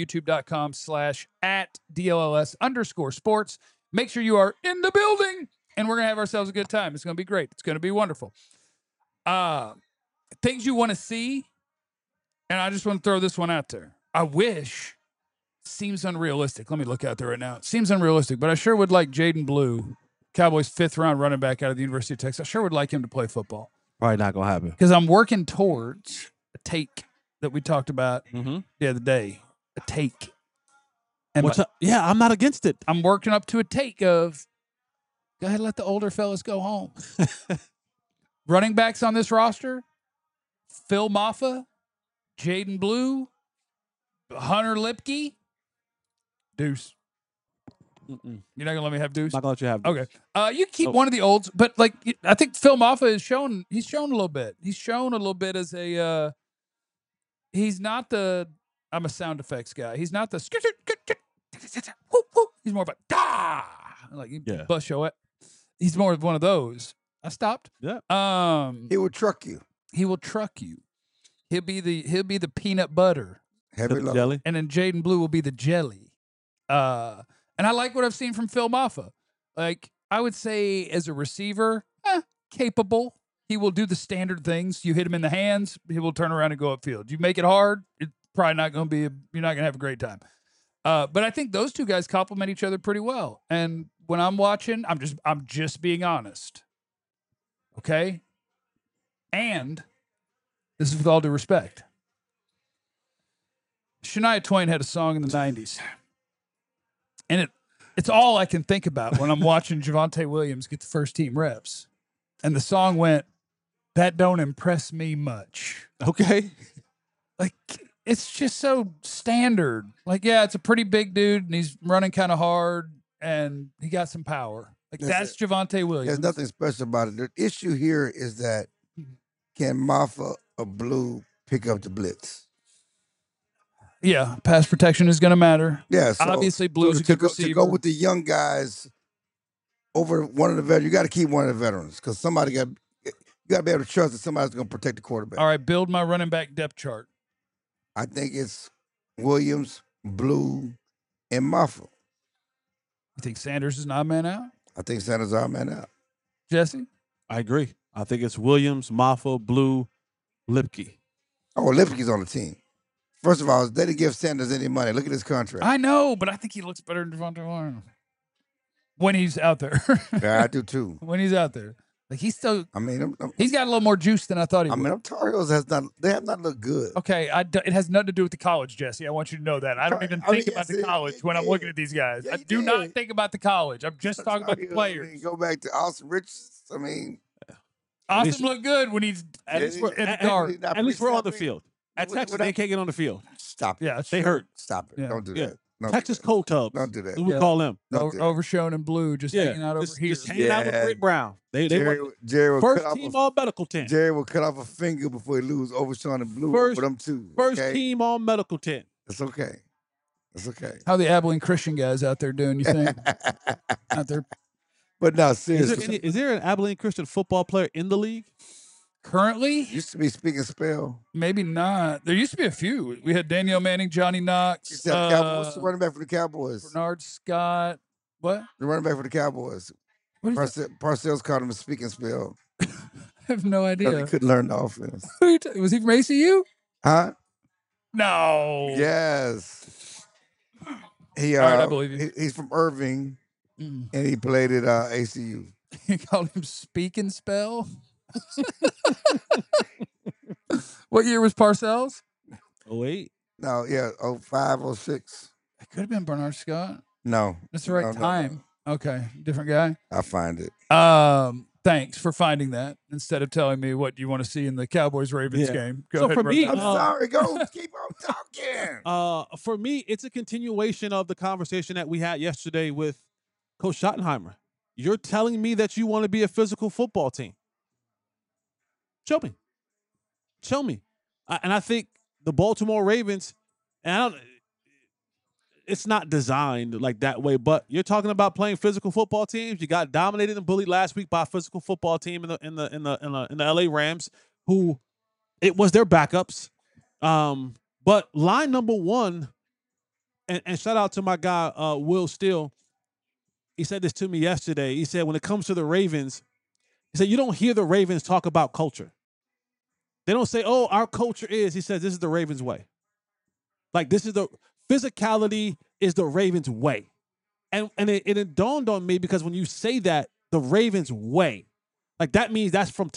youtube.com/@DLLS_sports. Make sure you are in the building, and we're going to have ourselves a good time. It's going to be great. It's going to be wonderful. Things you want to see, and I just want to throw this one out there. I wish, seems unrealistic. Let me look out there right now. It seems unrealistic, but I sure would like Jaden Blue, Cowboys' 5th-round running back out of the University of Texas. I sure would like him to play football. Probably not gonna happen. because I'm working towards a take that we talked about Mm-hmm. the other day. A take. And Yeah, I'm not against it. I'm working up to a take of go ahead and let the older fellas go home. Running backs on this roster, Phil Maffa, Jaden Blue, Hunter Lipke, Deuce. Mm-mm. You're not gonna let me have Deuce? Not gonna let you have. Okay. You keep Oh. one of the olds, but like I think Phil Maffa has shown he's shown a little bit. He's shown a little bit as a he's not the I'm a sound effects guy. He's not the he's more of a da like you Yeah. bust your it. He's more of one of those. I stopped. Yeah. He will truck you. He will truck you. He'll be the peanut butter. Heavy The load. jelly. And then Jaden Blue will be the jelly. And I like what I've seen from Phil Maffa. Like, I would say as a receiver, capable. He will do the standard things. You hit him in the hands, he will turn around and go upfield. You make it hard, it's probably not going to be, you're not going to have a great time. But I think those two guys complement each other pretty well. And when I'm watching, I'm just being honest. Okay? And this is with all due respect. Shania Twain had a song in the 90s. And it's all I can think about when I'm watching Javonte Williams get the first team reps. And the song went, "That don't impress me much." Okay. Like, it's just so standard. Like, yeah, it's a pretty big dude and he's running kind of hard and he got some power. Like, that's Javonte Williams. There's nothing special about it. The issue here is that can Maffa or Blue pick up the blitz? Yeah, pass protection is going to matter. Yeah, so, Obviously, Blue's a to good go, receiver. to go with the young guys over one of the veterans, you got to keep one of the veterans because you got to be able to trust that somebody's going to protect the quarterback. All right, build my running back depth chart. I think it's Williams, Blue, and Maffa. You think Sanders is not man out? I think Sanders are man out. Jesse? I agree. I think it's Williams, Maffa, Blue, Lipke. Oh, Lipke's on the team. First of all, they didn't give Sanders any money. Look at his contract. I know, but I think he looks better than Devontae Williams when he's out there. Yeah, I do too. When he's out there, like he's still. I mean, he's got a little more juice than I thought he would. them Tar Heels they have not looked good. Okay, it has nothing to do with the college, Jesse. I want you to know that. I don't even think about the college when I'm looking at these guys. Yeah, I do not think about the college. I'm just talking about the I players. mean, go back to Austin Richards. I mean, Austin looked good when he's At least we're, at guard. at least we're on the field. At Texas, they can't get on the field. Stop it. Yeah, They hurt. Stop it. Yeah. Don't do Yeah. that. Don't Texas do that. cold tubs. Don't do that. We Yeah. call them. Don't do that. Overshown in blue, just hanging out over just, here. Just hanging out with Yeah. Rick Brown. They Jerry will first cut team off all medical tent. Jerry will cut off a finger before he lose Overshawn and Blue First- over them too. First okay? team all medical tent. It's okay. It's okay. How the Abilene Christian guys out there doing? You think out there But no, Is seriously. there an Abilene Christian football player in the league? currently? Used to be speaking spell. Maybe not. There used to be a few. We had Danielle Manning, Johnny You Knox, said Cowboys, the running back for the Cowboys. Bernard Scott. What? The running back for the Cowboys. What is Parcells called him a speaking spell. I have no Because idea. he couldn't learn the offense. Who are you was he from ACU? Huh? No. Yes. He All right, I believe you. He's from Irving Mm. and he played at ACU. You called him Speak and Spell? What year was Parcells? 08. No, yeah, 05, 06. It could have been Bernard Scott. No. That's the right No, no, time. Okay. Different guy. I'll find it. Thanks for finding that instead of telling me what you want to see in the Cowboys Ravens Yeah. game. Go So ahead. for run me, that. I'm sorry. Go. Keep on talking. For me, it's a continuation of the conversation that we had yesterday with Coach Schottenheimer. You're telling me that you want to be a physical football team. Show me. Show me. And I think the Baltimore Ravens, and it's not designed like that way, but you're talking about playing physical football teams. You got dominated and bullied last week by a physical football team in the LA Rams, who it was their backups. But line number one, and shout out to my guy Will Steele. He said this to me yesterday. He said when it comes to the Ravens, he said you don't hear the Ravens talk about culture. They don't say, "Oh, our culture is." He says this is the Ravens way. Like this is the physicality is the Ravens way, and it dawned on me because when you say that the Ravens way, like that means that's from top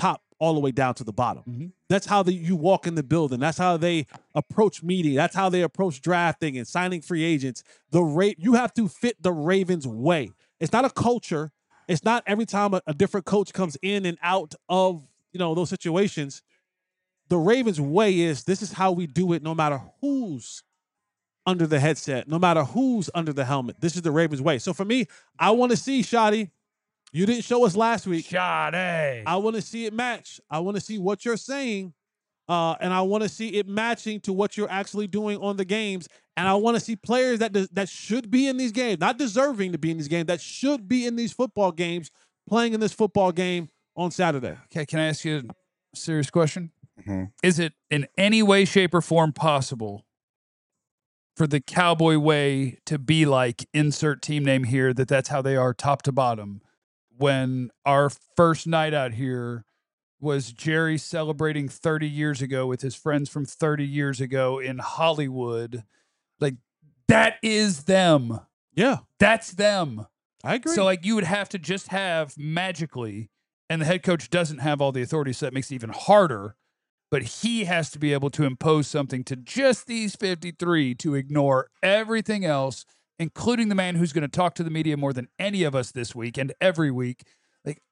all the way down to the bottom. That's how you walk in the building. That's how they approach media. That's how they approach drafting and signing free agents. You have to fit the Ravens way. It's not a culture. It's not every time a different coach comes in and out of those situations. The Ravens way is this is how we do it no matter who's under the headset, no matter who's under the helmet. This is the Ravens way. So for me, I want to see, Shotty, you didn't show us last week. Shotty. I want to see it match. I want to see what you're saying, and I want to see it matching to what you're actually doing on the games. And I want to see players that should be in these games, not deserving to be in these games, that should be in these football games, playing in this football game on Saturday. Okay, can I ask you a serious question? Is it in any way, shape, or form possible for the Cowboy way to be like insert team name here, that's how they are top to bottom, when our first night out here was Jerry celebrating 30 years ago with his friends from 30 years ago in Hollywood? Like, that is them. Yeah. That's them. I agree. So, like, you would have to just have magically, and the head coach doesn't have all the authority, so that makes it even harder. But he has to be able to impose something to just these 53 to ignore everything else, including the man who's going to talk to the media more than any of us this week and every week. Like,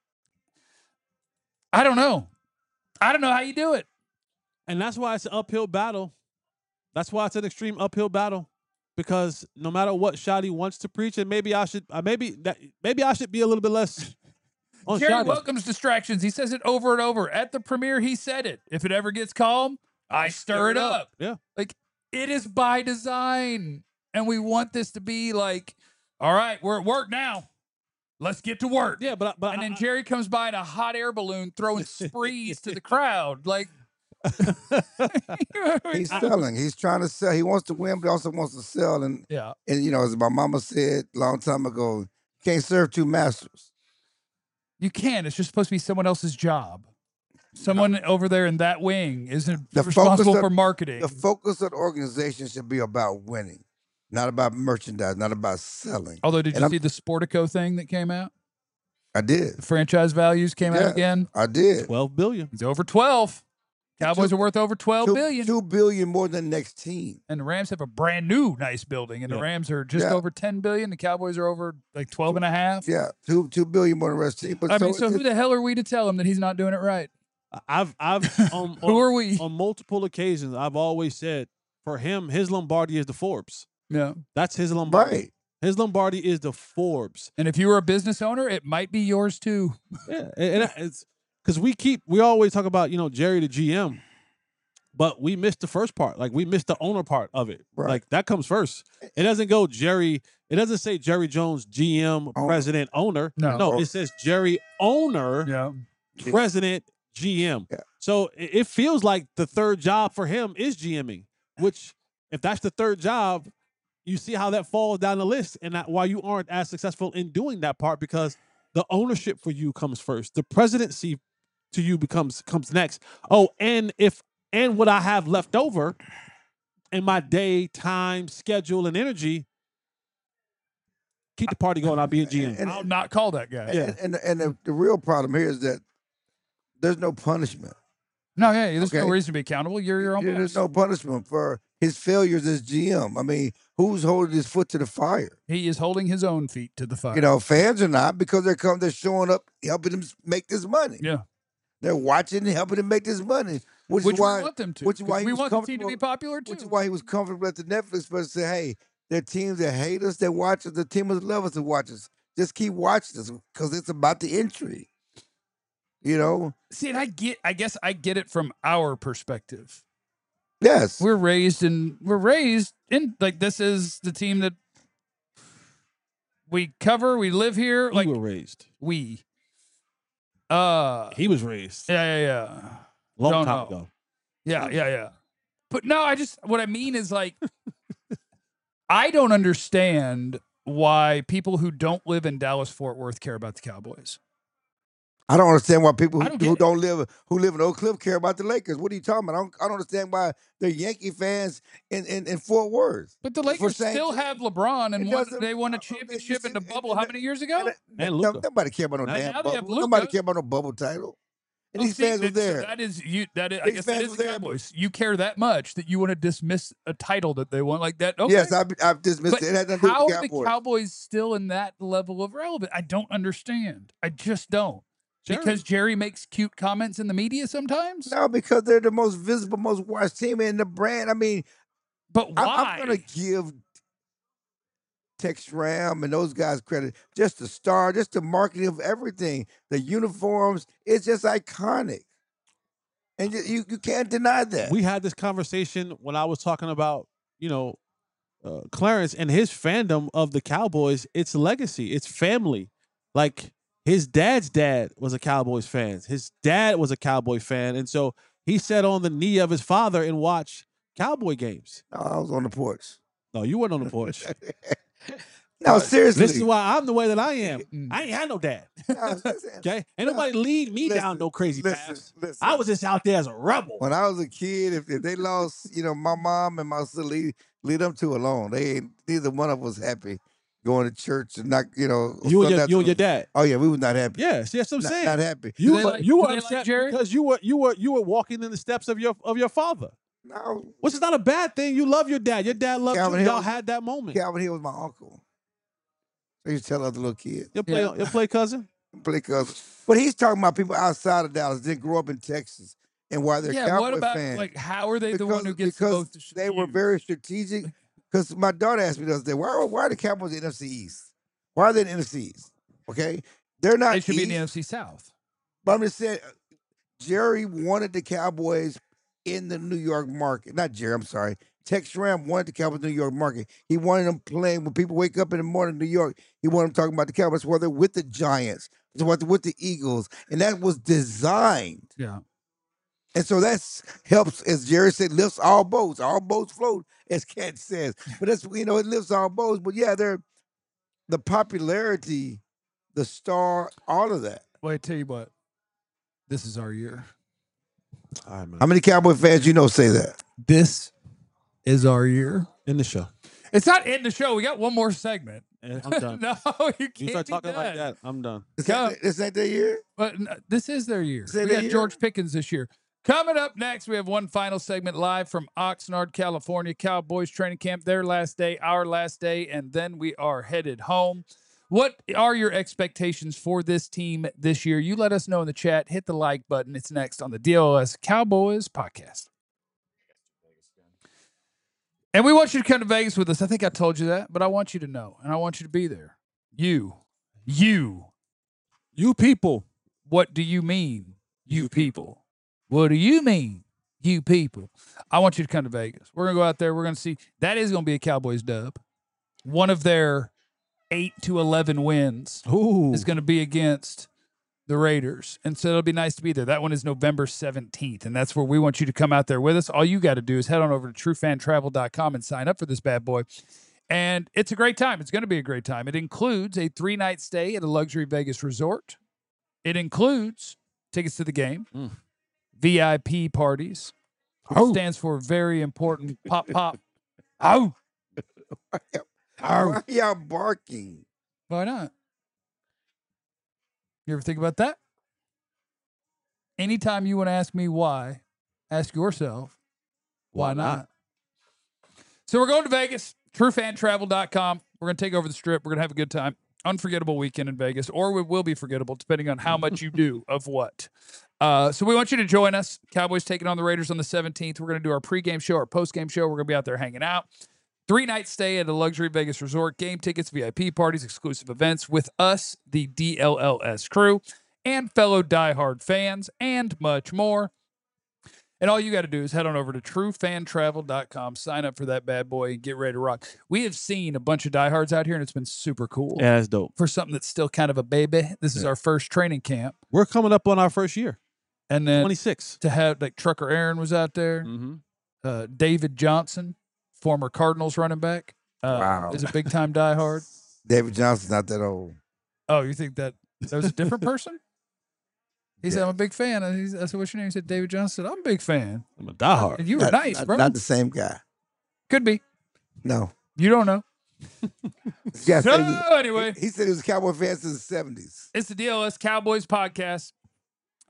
I don't know. I don't know how you do it. And that's why it's an uphill battle. That's why it's an extreme uphill battle. Because no matter what Shotty wants to preach, and maybe I should be a little bit less on Jerry Shotty. welcomes distractions. He says it over and over. At the premiere, he said it. If it ever gets calm, I stir it up. Yeah. Like, it is by design. And we want this to be like, all right, we're at work now. Let's get to work. Yeah, but and then Jerry comes by in a hot air balloon throwing sprees to the crowd. Like, he's selling. He's trying to sell. He wants to win, but he also wants to sell. And as my mama said a long time ago, you can't serve two masters. You can. It's just supposed to be someone else's job. Someone over there in that wing isn't responsible for marketing. The focus of the organization should be about winning, not about merchandise, not about selling. Although, did you see the Sportico thing that came out? I did. The franchise values came out again? I did. $12 billion. He's over 12. Cowboys are worth over $12 billion. $2 billion more than the next team. And the Rams have a brand new nice building, and the Rams are just over $10 billion. The Cowboys are over like 12 and a half. Yeah, $2 billion more than the rest of the team. But so who the hell are we to tell him that he's not doing it right? I've who are we? On multiple occasions, I've always said for him, his Lombardi is the Forbes. Yeah, that's his Lombardi. Right. His Lombardi is the Forbes. And if you were a business owner, it might be yours too. Yeah, and it's because we always talk about Jerry the GM. But we missed the first part. Like, we missed the owner part of it. Right. Like, that comes first. It doesn't go Jerry. It doesn't say Jerry Jones, GM, president, owner. No, it says Jerry, owner, president, GM. Yeah. So it feels like the third job for him is GMing, which, if that's the third job, you see how that falls down the list and why you aren't as successful in doing that part, because the ownership for you comes first. The presidency to you comes next. Oh, and what I have left over in my day, time, schedule, and energy, keep the party going. I'll be a GM. And I'll not call that guy. Yeah. And the real problem here is that there's no punishment. No, there's no reason to be accountable. You're your own boss. There's no punishment for his failures as GM. I mean, who's holding his foot to the fire? He is holding his own feet to the fire. Fans are not, because they're showing up, helping him make this money. Yeah. They're watching and helping him make this money. Which we is why, want them to. Which is why we want the team to be popular too. Which is why he was comfortable at the Netflix but say, hey, there are teams that hate us, that watch us, the team that love us that watch us. Just keep watching us, because it's about the intrigue. See, and I guess I get it from our perspective. Yes. We're raised in like, this is the team that we cover, we live here. We were raised. He was raised. Yeah. Long time ago. Yeah. But no, what I mean is, like, I don't understand why people who don't live in Dallas-Fort Worth care about the Cowboys. I don't understand why people who live in Oak Cliff care about the Lakers. What are you talking about? I don't understand why they're Yankee fans in Fort Worth. But the Lakers still have LeBron, and they won a championship in the bubble how many years ago? And Luka. Nobody care about no damn bubble. Nobody care about no bubble title. And these fans were there. So that is you. That is, I These guess that fans is were the there, Cowboys. You care that much that you want to dismiss a title that they want like that. Okay. Yes, I've dismissed But it. It had nothing to do how with are the the Cowboys. Cowboys still in that level of relevance? I don't understand. I just don't. Because Jerry makes cute comments in the media sometimes? No, because they're the most visible, most watched team in the brand. I mean, But why? I'm going to give Tex Ram and those guys credit. Just the star, just the marketing of everything. The uniforms, it's just iconic. And you can't deny that. We had this conversation when I was talking about, Clarence and his fandom of the Cowboys. It's legacy. It's family. Like his dad's dad was a Cowboys fan. His dad was a Cowboy fan. And so he sat on the knee of his father and watched Cowboy games. No, I was on the porch. No, you weren't on the porch. No, seriously. This is why I'm the way that I am. I ain't had no dad. No, listen, Okay? Ain't nobody lead me down no crazy paths. listen. I was just out there as a rebel. When I was a kid, if they lost, my mom and my sister leave them two alone. Neither one of us happy going to church and not, You and your dad. Oh yeah, we was not happy. Yes, that's what I'm saying. Not happy. You they were like- you do were they like upset Jerry? because you were walking in the steps of your father. No, Which is not a bad thing. You love your dad. Your dad loved Calvin you. Hill- Y'all had that moment. Calvin Hill was my uncle. So he used to tell other little kids. Your play cousin. Play cousin. But he's talking about people outside of Dallas, didn't grow up in Texas, and why they're yeah, Cowboy what about fans. how are they the one who gets the because most? they were views? very strategic. Because my daughter asked me the other day, why are the Cowboys in the NFC East? Why are they in the NFC East? Okay, they're not. They should be in the East, NFC South. But I'm just saying, Jerry wanted the Cowboys in the New York market. Not Jerry, I'm sorry. Tex Ram wanted the Cowboys in the New York market. He wanted them playing when people wake up in the morning in New York. He wanted them talking about the Cowboys, whether with the Giants, whether with the Eagles, and that was designed. Yeah. And so that's helps, as Jerry said, lifts all boats. All boats float, as Cat says. But that's it lifts all boats. But yeah, the popularity, the star, all of that. Well, I tell you what, this is our year. All right, man. How many Cowboy fans say that? This is our year. In the show. It's not in the show. We got one more segment. I'm done. No, you can't You start be talking like done. that, I'm done. This ain't their year? But this is their year. Is it We their got year? George Pickens this year. Coming up next, we have one final segment live from Oxnard, California. Cowboys training camp, their last day, our last day, and then we are headed home. What are your expectations for this team this year? You let us know in the chat. Hit the like button. It's next on the DLS Cowboys podcast. And we want you to come to Vegas with us. I think I told you that, but I want you to know, and I want you to be there. You people. What do you mean, you people? What do you mean, you people? I want you to come to Vegas. We're going to go out there. We're going to see. That is going to be a Cowboys dub. One of their 8 to 11 wins is going to be against the Raiders. And so it'll be nice to be there. That one is November 17th, and that's where we want you to come out there with us. All you got to do is head on over to truefantravel.com and sign up for this bad boy. And it's a great time. It's going to be a great time. It includes a 3-night stay at a luxury Vegas resort. It includes tickets to the game, VIP parties, which stands for very important pop. Oh, Why y'all barking? why not? You ever think about that? Anytime you want to ask me why, ask yourself, why not? So we're going to Vegas, truefantravel.com. We're going to take over the strip. We're going to have a good time. Unforgettable weekend in Vegas, or it will be forgettable, depending on how much you do of what. So we want you to join us. Cowboys taking on the Raiders on the 17th. We're going to do our pregame show, our postgame show. We're going to be out there hanging out. 3-night stay at a luxury Vegas resort, game tickets, VIP parties, exclusive events with us, the DLLS crew, and fellow diehard fans, and much more. And all you got to do is head on over to truefantravel.com, sign up for that bad boy, and get ready to rock. We have seen a bunch of diehards out here, and it's been super cool. Yeah, that's dope. For something that's still kind of a baby. This is our first training camp. We're coming up on our first year. And then 26. to have, like, Trucker Aaron was out there. Mm-hmm. David Johnson, former Cardinals running back, Wow. is a big-time diehard. David Johnson's not that old. Oh, you think that was a different person? He said, I'm a big fan. And I said, what's your name? He said, David Johnson. I'm a big fan. I'm a diehard. And you were nice, bro. Not the same guy. Could be. No. You don't know. Yeah, So, anyway. he said he was a Cowboy fan since the 70s. It's the DLS Cowboys podcast.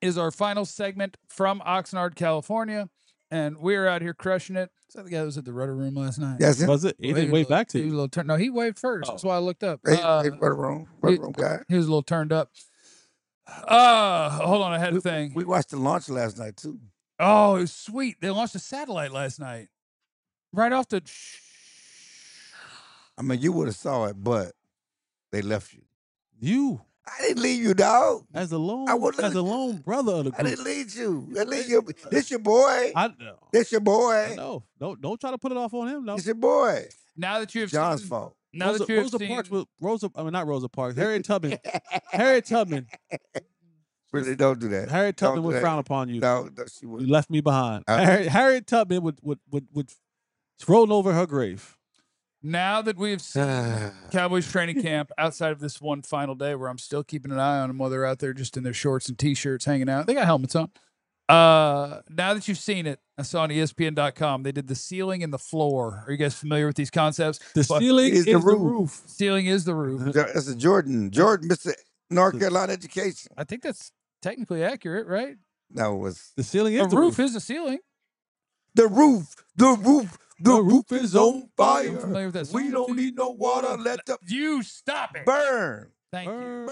is our final segment from Oxnard, California. And we're out here crushing it. Is that the guy that was at the Rudder Room last night? That's it. Was it? He didn't wave back to you. No, he waved first. That's why I looked up. Hey, Rudder Room guy. He was a little turned up. Hold on. I had a thing. We watched the launch last night, too. Oh, it was sweet. They launched a satellite last night. Right off the... I mean, you would have saw it, but they left you. You, I didn't leave you, dog. as a lone brother of the I group. didn't leave you. This your boy. I know. This your boy. No, don't try to put it off on him. No, This your boy. Now that you have John's seen... fault. Now that you have Rosa seen... Parks with not Rosa Parks. Harriet Tubman. Harriet Tubman. Really, don't do that. Harriet Don't Tubman do would that. frown upon you. No, she You wouldn't. left me behind. Harriet Tubman would roll over her grave. Now that we have seen Cowboys training camp outside of this one final day where I'm still keeping an eye on them while they're out there just in their shorts and T-shirts hanging out. They got helmets on. Now that you've seen it, I saw on ESPN.com, they did the ceiling and the floor. Are you guys familiar with these concepts? The ceiling is the roof. Ceiling is the roof. That's a Jordan, Mr. North Carolina education. I think that's technically accurate, right? No, it was The ceiling is A the roof is a ceiling. the roof. The roof is on Familiar fire. with that We song? don't need no water. Let the You stop it. burn. Thank you.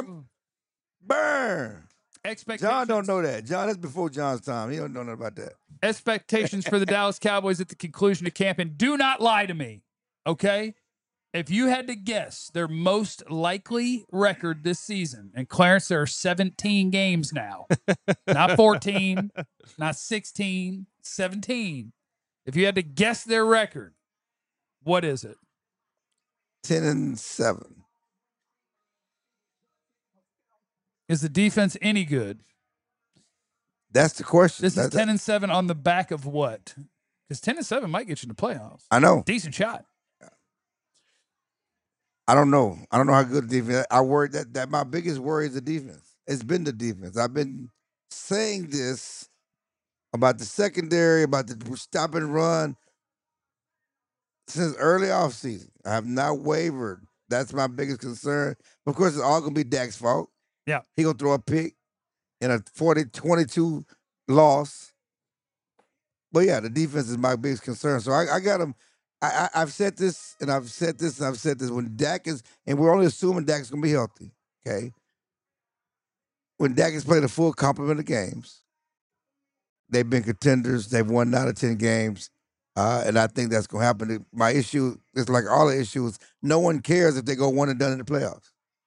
Burn. Expectations. John don't know that. John, that's before John's time. He don't know nothing about that. Expectations for the Dallas Cowboys at the conclusion of camp, and do not lie to me, okay? If you had to guess their most likely record this season, and Clarence, there are 17 games now, not 14, not 16, 17. If you had to guess their record, what is it? 10-7. Is the defense any good? That's the question. This is 10-7 on the back of what? Because 10-7 might get you in the playoffs. I know. Decent shot. I don't know. I don't know how good the defense. I worry that my biggest worry is the defense. It's been the defense. I've been saying this about the secondary, about the stop and run since early offseason. I have not wavered. That's my biggest concern. Of course, it's all going to be Dak's fault. Yeah. He going to throw a pick in a 40-22 loss. But yeah, the defense is my biggest concern. So I got him. I've said this, and I've said this, and I've said this. When Dak is, and we're only assuming Dak's going to be healthy, okay? When Dak has played a full complement of games, they've been contenders. They've won 9 of 10 games, and I think that's going to happen. My issue is like all the issues. No one cares if they go one and done in the playoffs.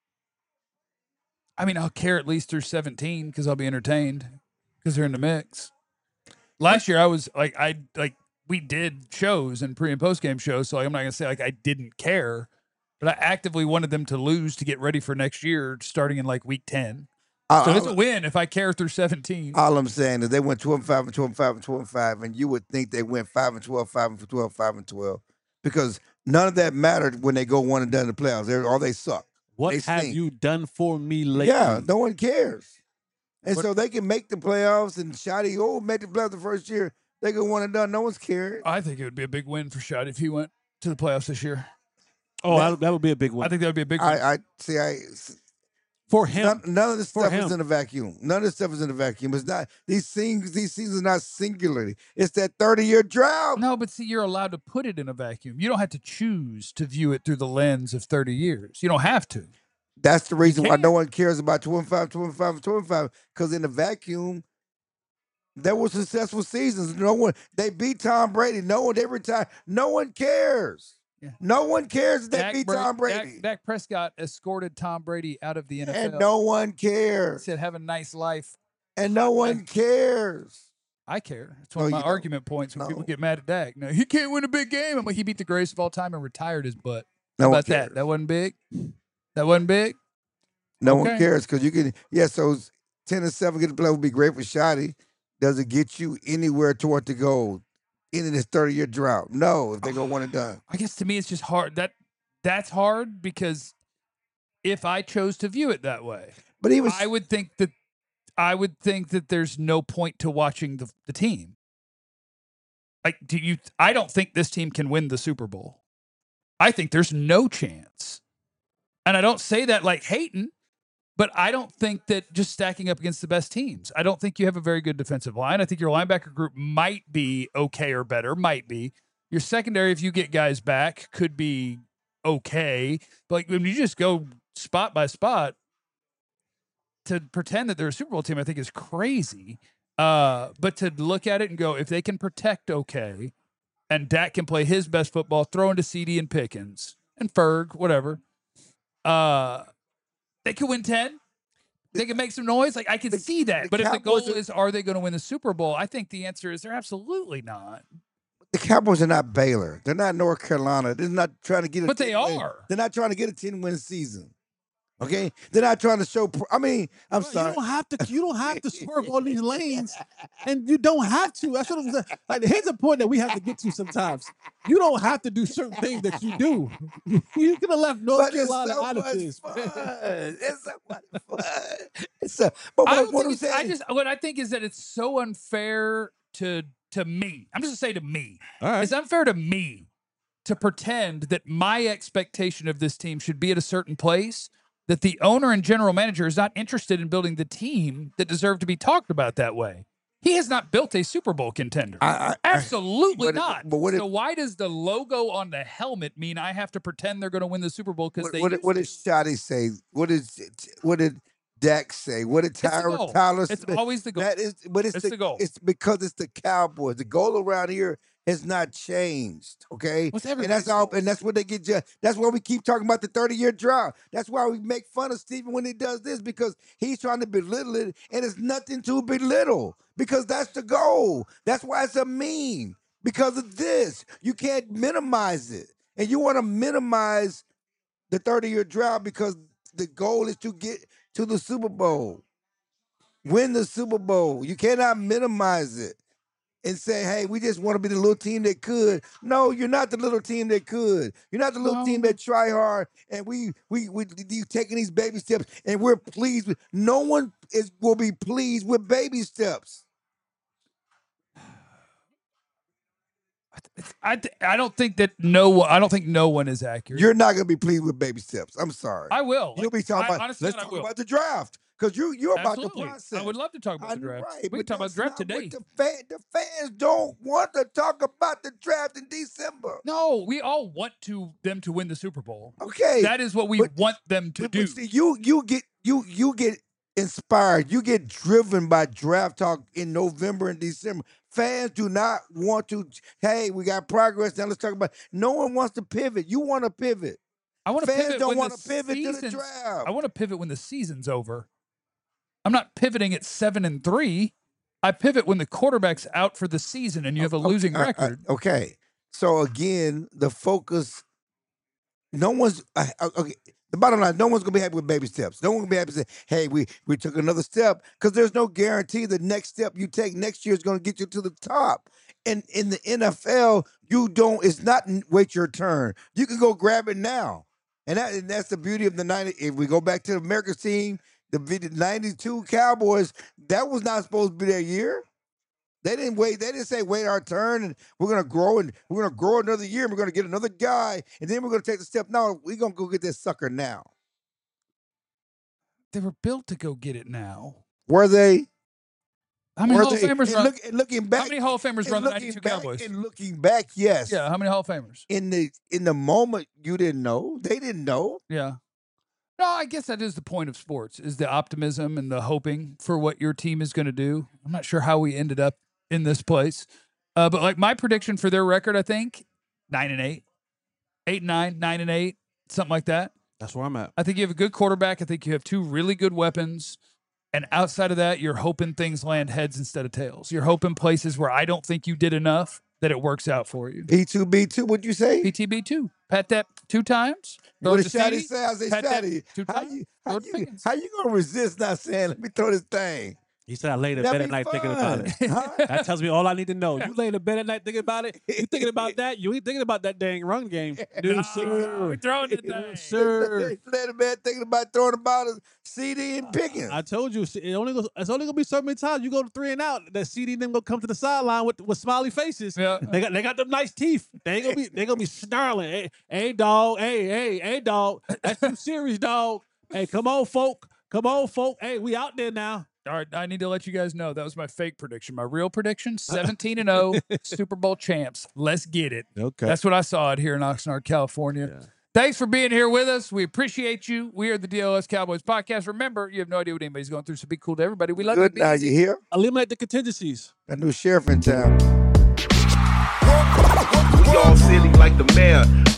I mean, I'll care at least through 17 because I'll be entertained because they're in the mix. Last year, I was we did shows and pre and post game shows, so I'm not gonna say like I didn't care, but I actively wanted them to lose to get ready for next year, starting in like week 10. So it's a win if I care through 17. All I'm saying is they went 12-5 and 12-5 and 12-5, and you would think they went 5 and 12, 5 and 12, 5 and 12, because none of that mattered when they go one and done in the playoffs. They suck. What They have stink. you done for me lately? Yeah, no one cares. And so they can make the playoffs, and Shotty make the playoffs the first year. They go one and done. No one's caring. I think it would be a big win for Shot if he went to the playoffs this year. Oh, that would be a big one. I think that would be a big win. I see. For him. None of this For stuff him. is in a vacuum. None of this stuff is in a vacuum. It's not these things. These seasons are not singularly. It's that 30-year drought. No, but see, you're allowed to put it in a vacuum. You don't have to choose to view it through the lens of 30 years. You don't have to. That's the reason why can't. no one cares about 25, 25, 25. Because in the vacuum, there were successful seasons. No one. They beat Tom Brady. No one. They retired. No one cares. Yeah. No one cares if they beat Tom Brady. Dak Prescott escorted Tom Brady out of the NFL. And no one He cares. said, have a nice life. And no one cares. I care. It's one of No, my you don't. argument points when No. people get mad at Dak. No, he can't win a big game. I'm like, he beat the greatest of all time and retired his butt. No How one about that? cares. That wasn't big? That wasn't big? No Okay. one cares because you can. Yeah, so 10-7 get the play would be great for Shotty. Does it get you anywhere toward the goal in this 30-year drought? No, if they go one and done. I guess to me it's just hard. That's hard because if I chose to view it that way, But even I would think that there's no point to watching the team. Like, I don't think this team can win the Super Bowl. I think there's no chance. And I don't say that like hating. But I don't think that just stacking up against the best teams. I don't think you have a very good defensive line. I think your linebacker group might be okay or better, might be. Your secondary, if you get guys back, could be okay. But like when you just go spot by spot, to pretend that they're a Super Bowl team, I think is crazy. But to look at it and go, if they can protect okay, and Dak can play his best football, throw into CD and Pickens and Ferg, whatever, they could win 10. They can make some noise. Like I can see that. But if the goal is, are they going to win the Super Bowl? I think the answer is they're absolutely not. The Cowboys are not Baylor. They're not North Carolina. They're not trying to get a But they are. They're not trying to get a 10-win season. Okay? They're not trying to show I'm sorry. You don't have to swerve all these lanes. And you don't have to. That's what I'm saying. Like here's a point that we have to get to sometimes. You don't have to do certain things that you do. You could have left North Carolina out of this. It's so much fun. What I think is that it's so unfair to me. I'm just gonna say to me. All right. It's unfair to me to pretend that my expectation of this team should be at a certain place, that the owner and general manager is not interested in building the team that deserve to be talked about that way. He has not built a Super Bowl contender. Absolutely not. So why does the logo on the helmet mean I have to pretend they're going to win the Super Bowl because what did Shotty say? What did Dak say? What did Tyler Smith? It's always the goal. It's the goal. It's because it's the Cowboys. The goal around here has not changed. Okay, and that's all. And that's what they get. That's why we keep talking about the 30-year drought. That's why we make fun of Steven when he does this, because he's trying to belittle it, and it's nothing to belittle because that's the goal. That's why it's a meme, because of this. You can't minimize it, and you want to minimize the 30-year drought because the goal is to get to the Super Bowl, win the Super Bowl. You cannot minimize it and say, hey, we just want to be the little team that could. No, you're not the little team that could. You're not the little team that try hard, and we taking these baby steps, and we're pleased with. No one will be pleased with baby steps. I don't think no one is accurate. You're not gonna be pleased with baby steps. I'm sorry. I will. You'll be talking about. Honestly, let's talk about the draft. Because you're about the process. I would love to talk about the draft. Right, we can talk about the draft today. The fans don't want to talk about the draft in December. No, we all want them to win the Super Bowl. Okay, that is what we want them to do. But see, you get inspired. You get driven by draft talk in November and December. Fans do not want to. Hey, we got progress. Now let's talk about. No one wants to pivot. You want to pivot. I want to Fans pivot. don't want to pivot to the draft. I want to pivot when the season's over. I'm not pivoting at 7-3. I pivot when the quarterback's out for the season and you have a losing record. Okay. So again, the focus. No one's okay. The bottom line, no one's gonna be happy with baby steps. No one's gonna be happy to say, "Hey, we took another step," because there's no guarantee the next step you take next year is gonna get you to the top. And in the NFL, you don't. It's not wait your turn. You can go grab it now, and that's the beauty of the 90. If we go back to the America's team. The 92 Cowboys, that was not supposed to be their year. They didn't wait. They didn't say, wait our turn, and we're going to grow, and we're going to grow another year, and we're going to get another guy, and then we're going to take the step. No, we're going to go get this sucker now. They were built to go get it now. Were they? How many Hall of Famers run? Looking back, how many Hall of Famers run the 92 Cowboys? And looking back, yes. Yeah, how many Hall of Famers? In the moment, you didn't know. They didn't know. Yeah. No, I guess that is the point of sports, is the optimism and the hoping for what your team is going to do. I'm not sure how we ended up in this place. But like my prediction for their record, I think 9-8, 8-9, 9-8, something like that. That's where I'm at. I think you have a good quarterback. I think you have two really good weapons. And outside of that, you're hoping things land heads instead of tails. You're hoping places where I don't think you did enough that it works out for you. P2B2, what'd you say? PTB2. Pat that 2 times. What did Shotty say? I say, Shotty, 2 times. How you going to resist not saying, let me throw this thing? He said, I laid in bed at night thinking about it. Huh? That tells me all I need to know. You lay in bed at night thinking about it? You thinking about that? You ain't thinking about that dang run game. No, sir. We're throwing the thing. Sir. You lay in bed thinking about throwing about a CD and picking. I told you, it's only going to be so many times you go to 3 and out, that CD and them going to come to the sideline with smiley faces. Yeah. They got them nice teeth. They going to be snarling. Hey, dog. Hey, dog. That's too serious, dog. Hey, come on, folk. Come on, folk. Hey, we out there now. All right, I need to let you guys know that was my fake prediction. My real prediction: 17-0, Super Bowl champs. Let's get it. Okay. That's what I saw it here in Oxnard, California. Yeah. Thanks for being here with us. We appreciate you. We are the DLS Cowboys podcast. Remember, you have no idea what anybody's going through, so be cool to everybody. We love Good you. now, you hear? Eliminate the contingencies. That new sheriff in town. We all silly like the mayor.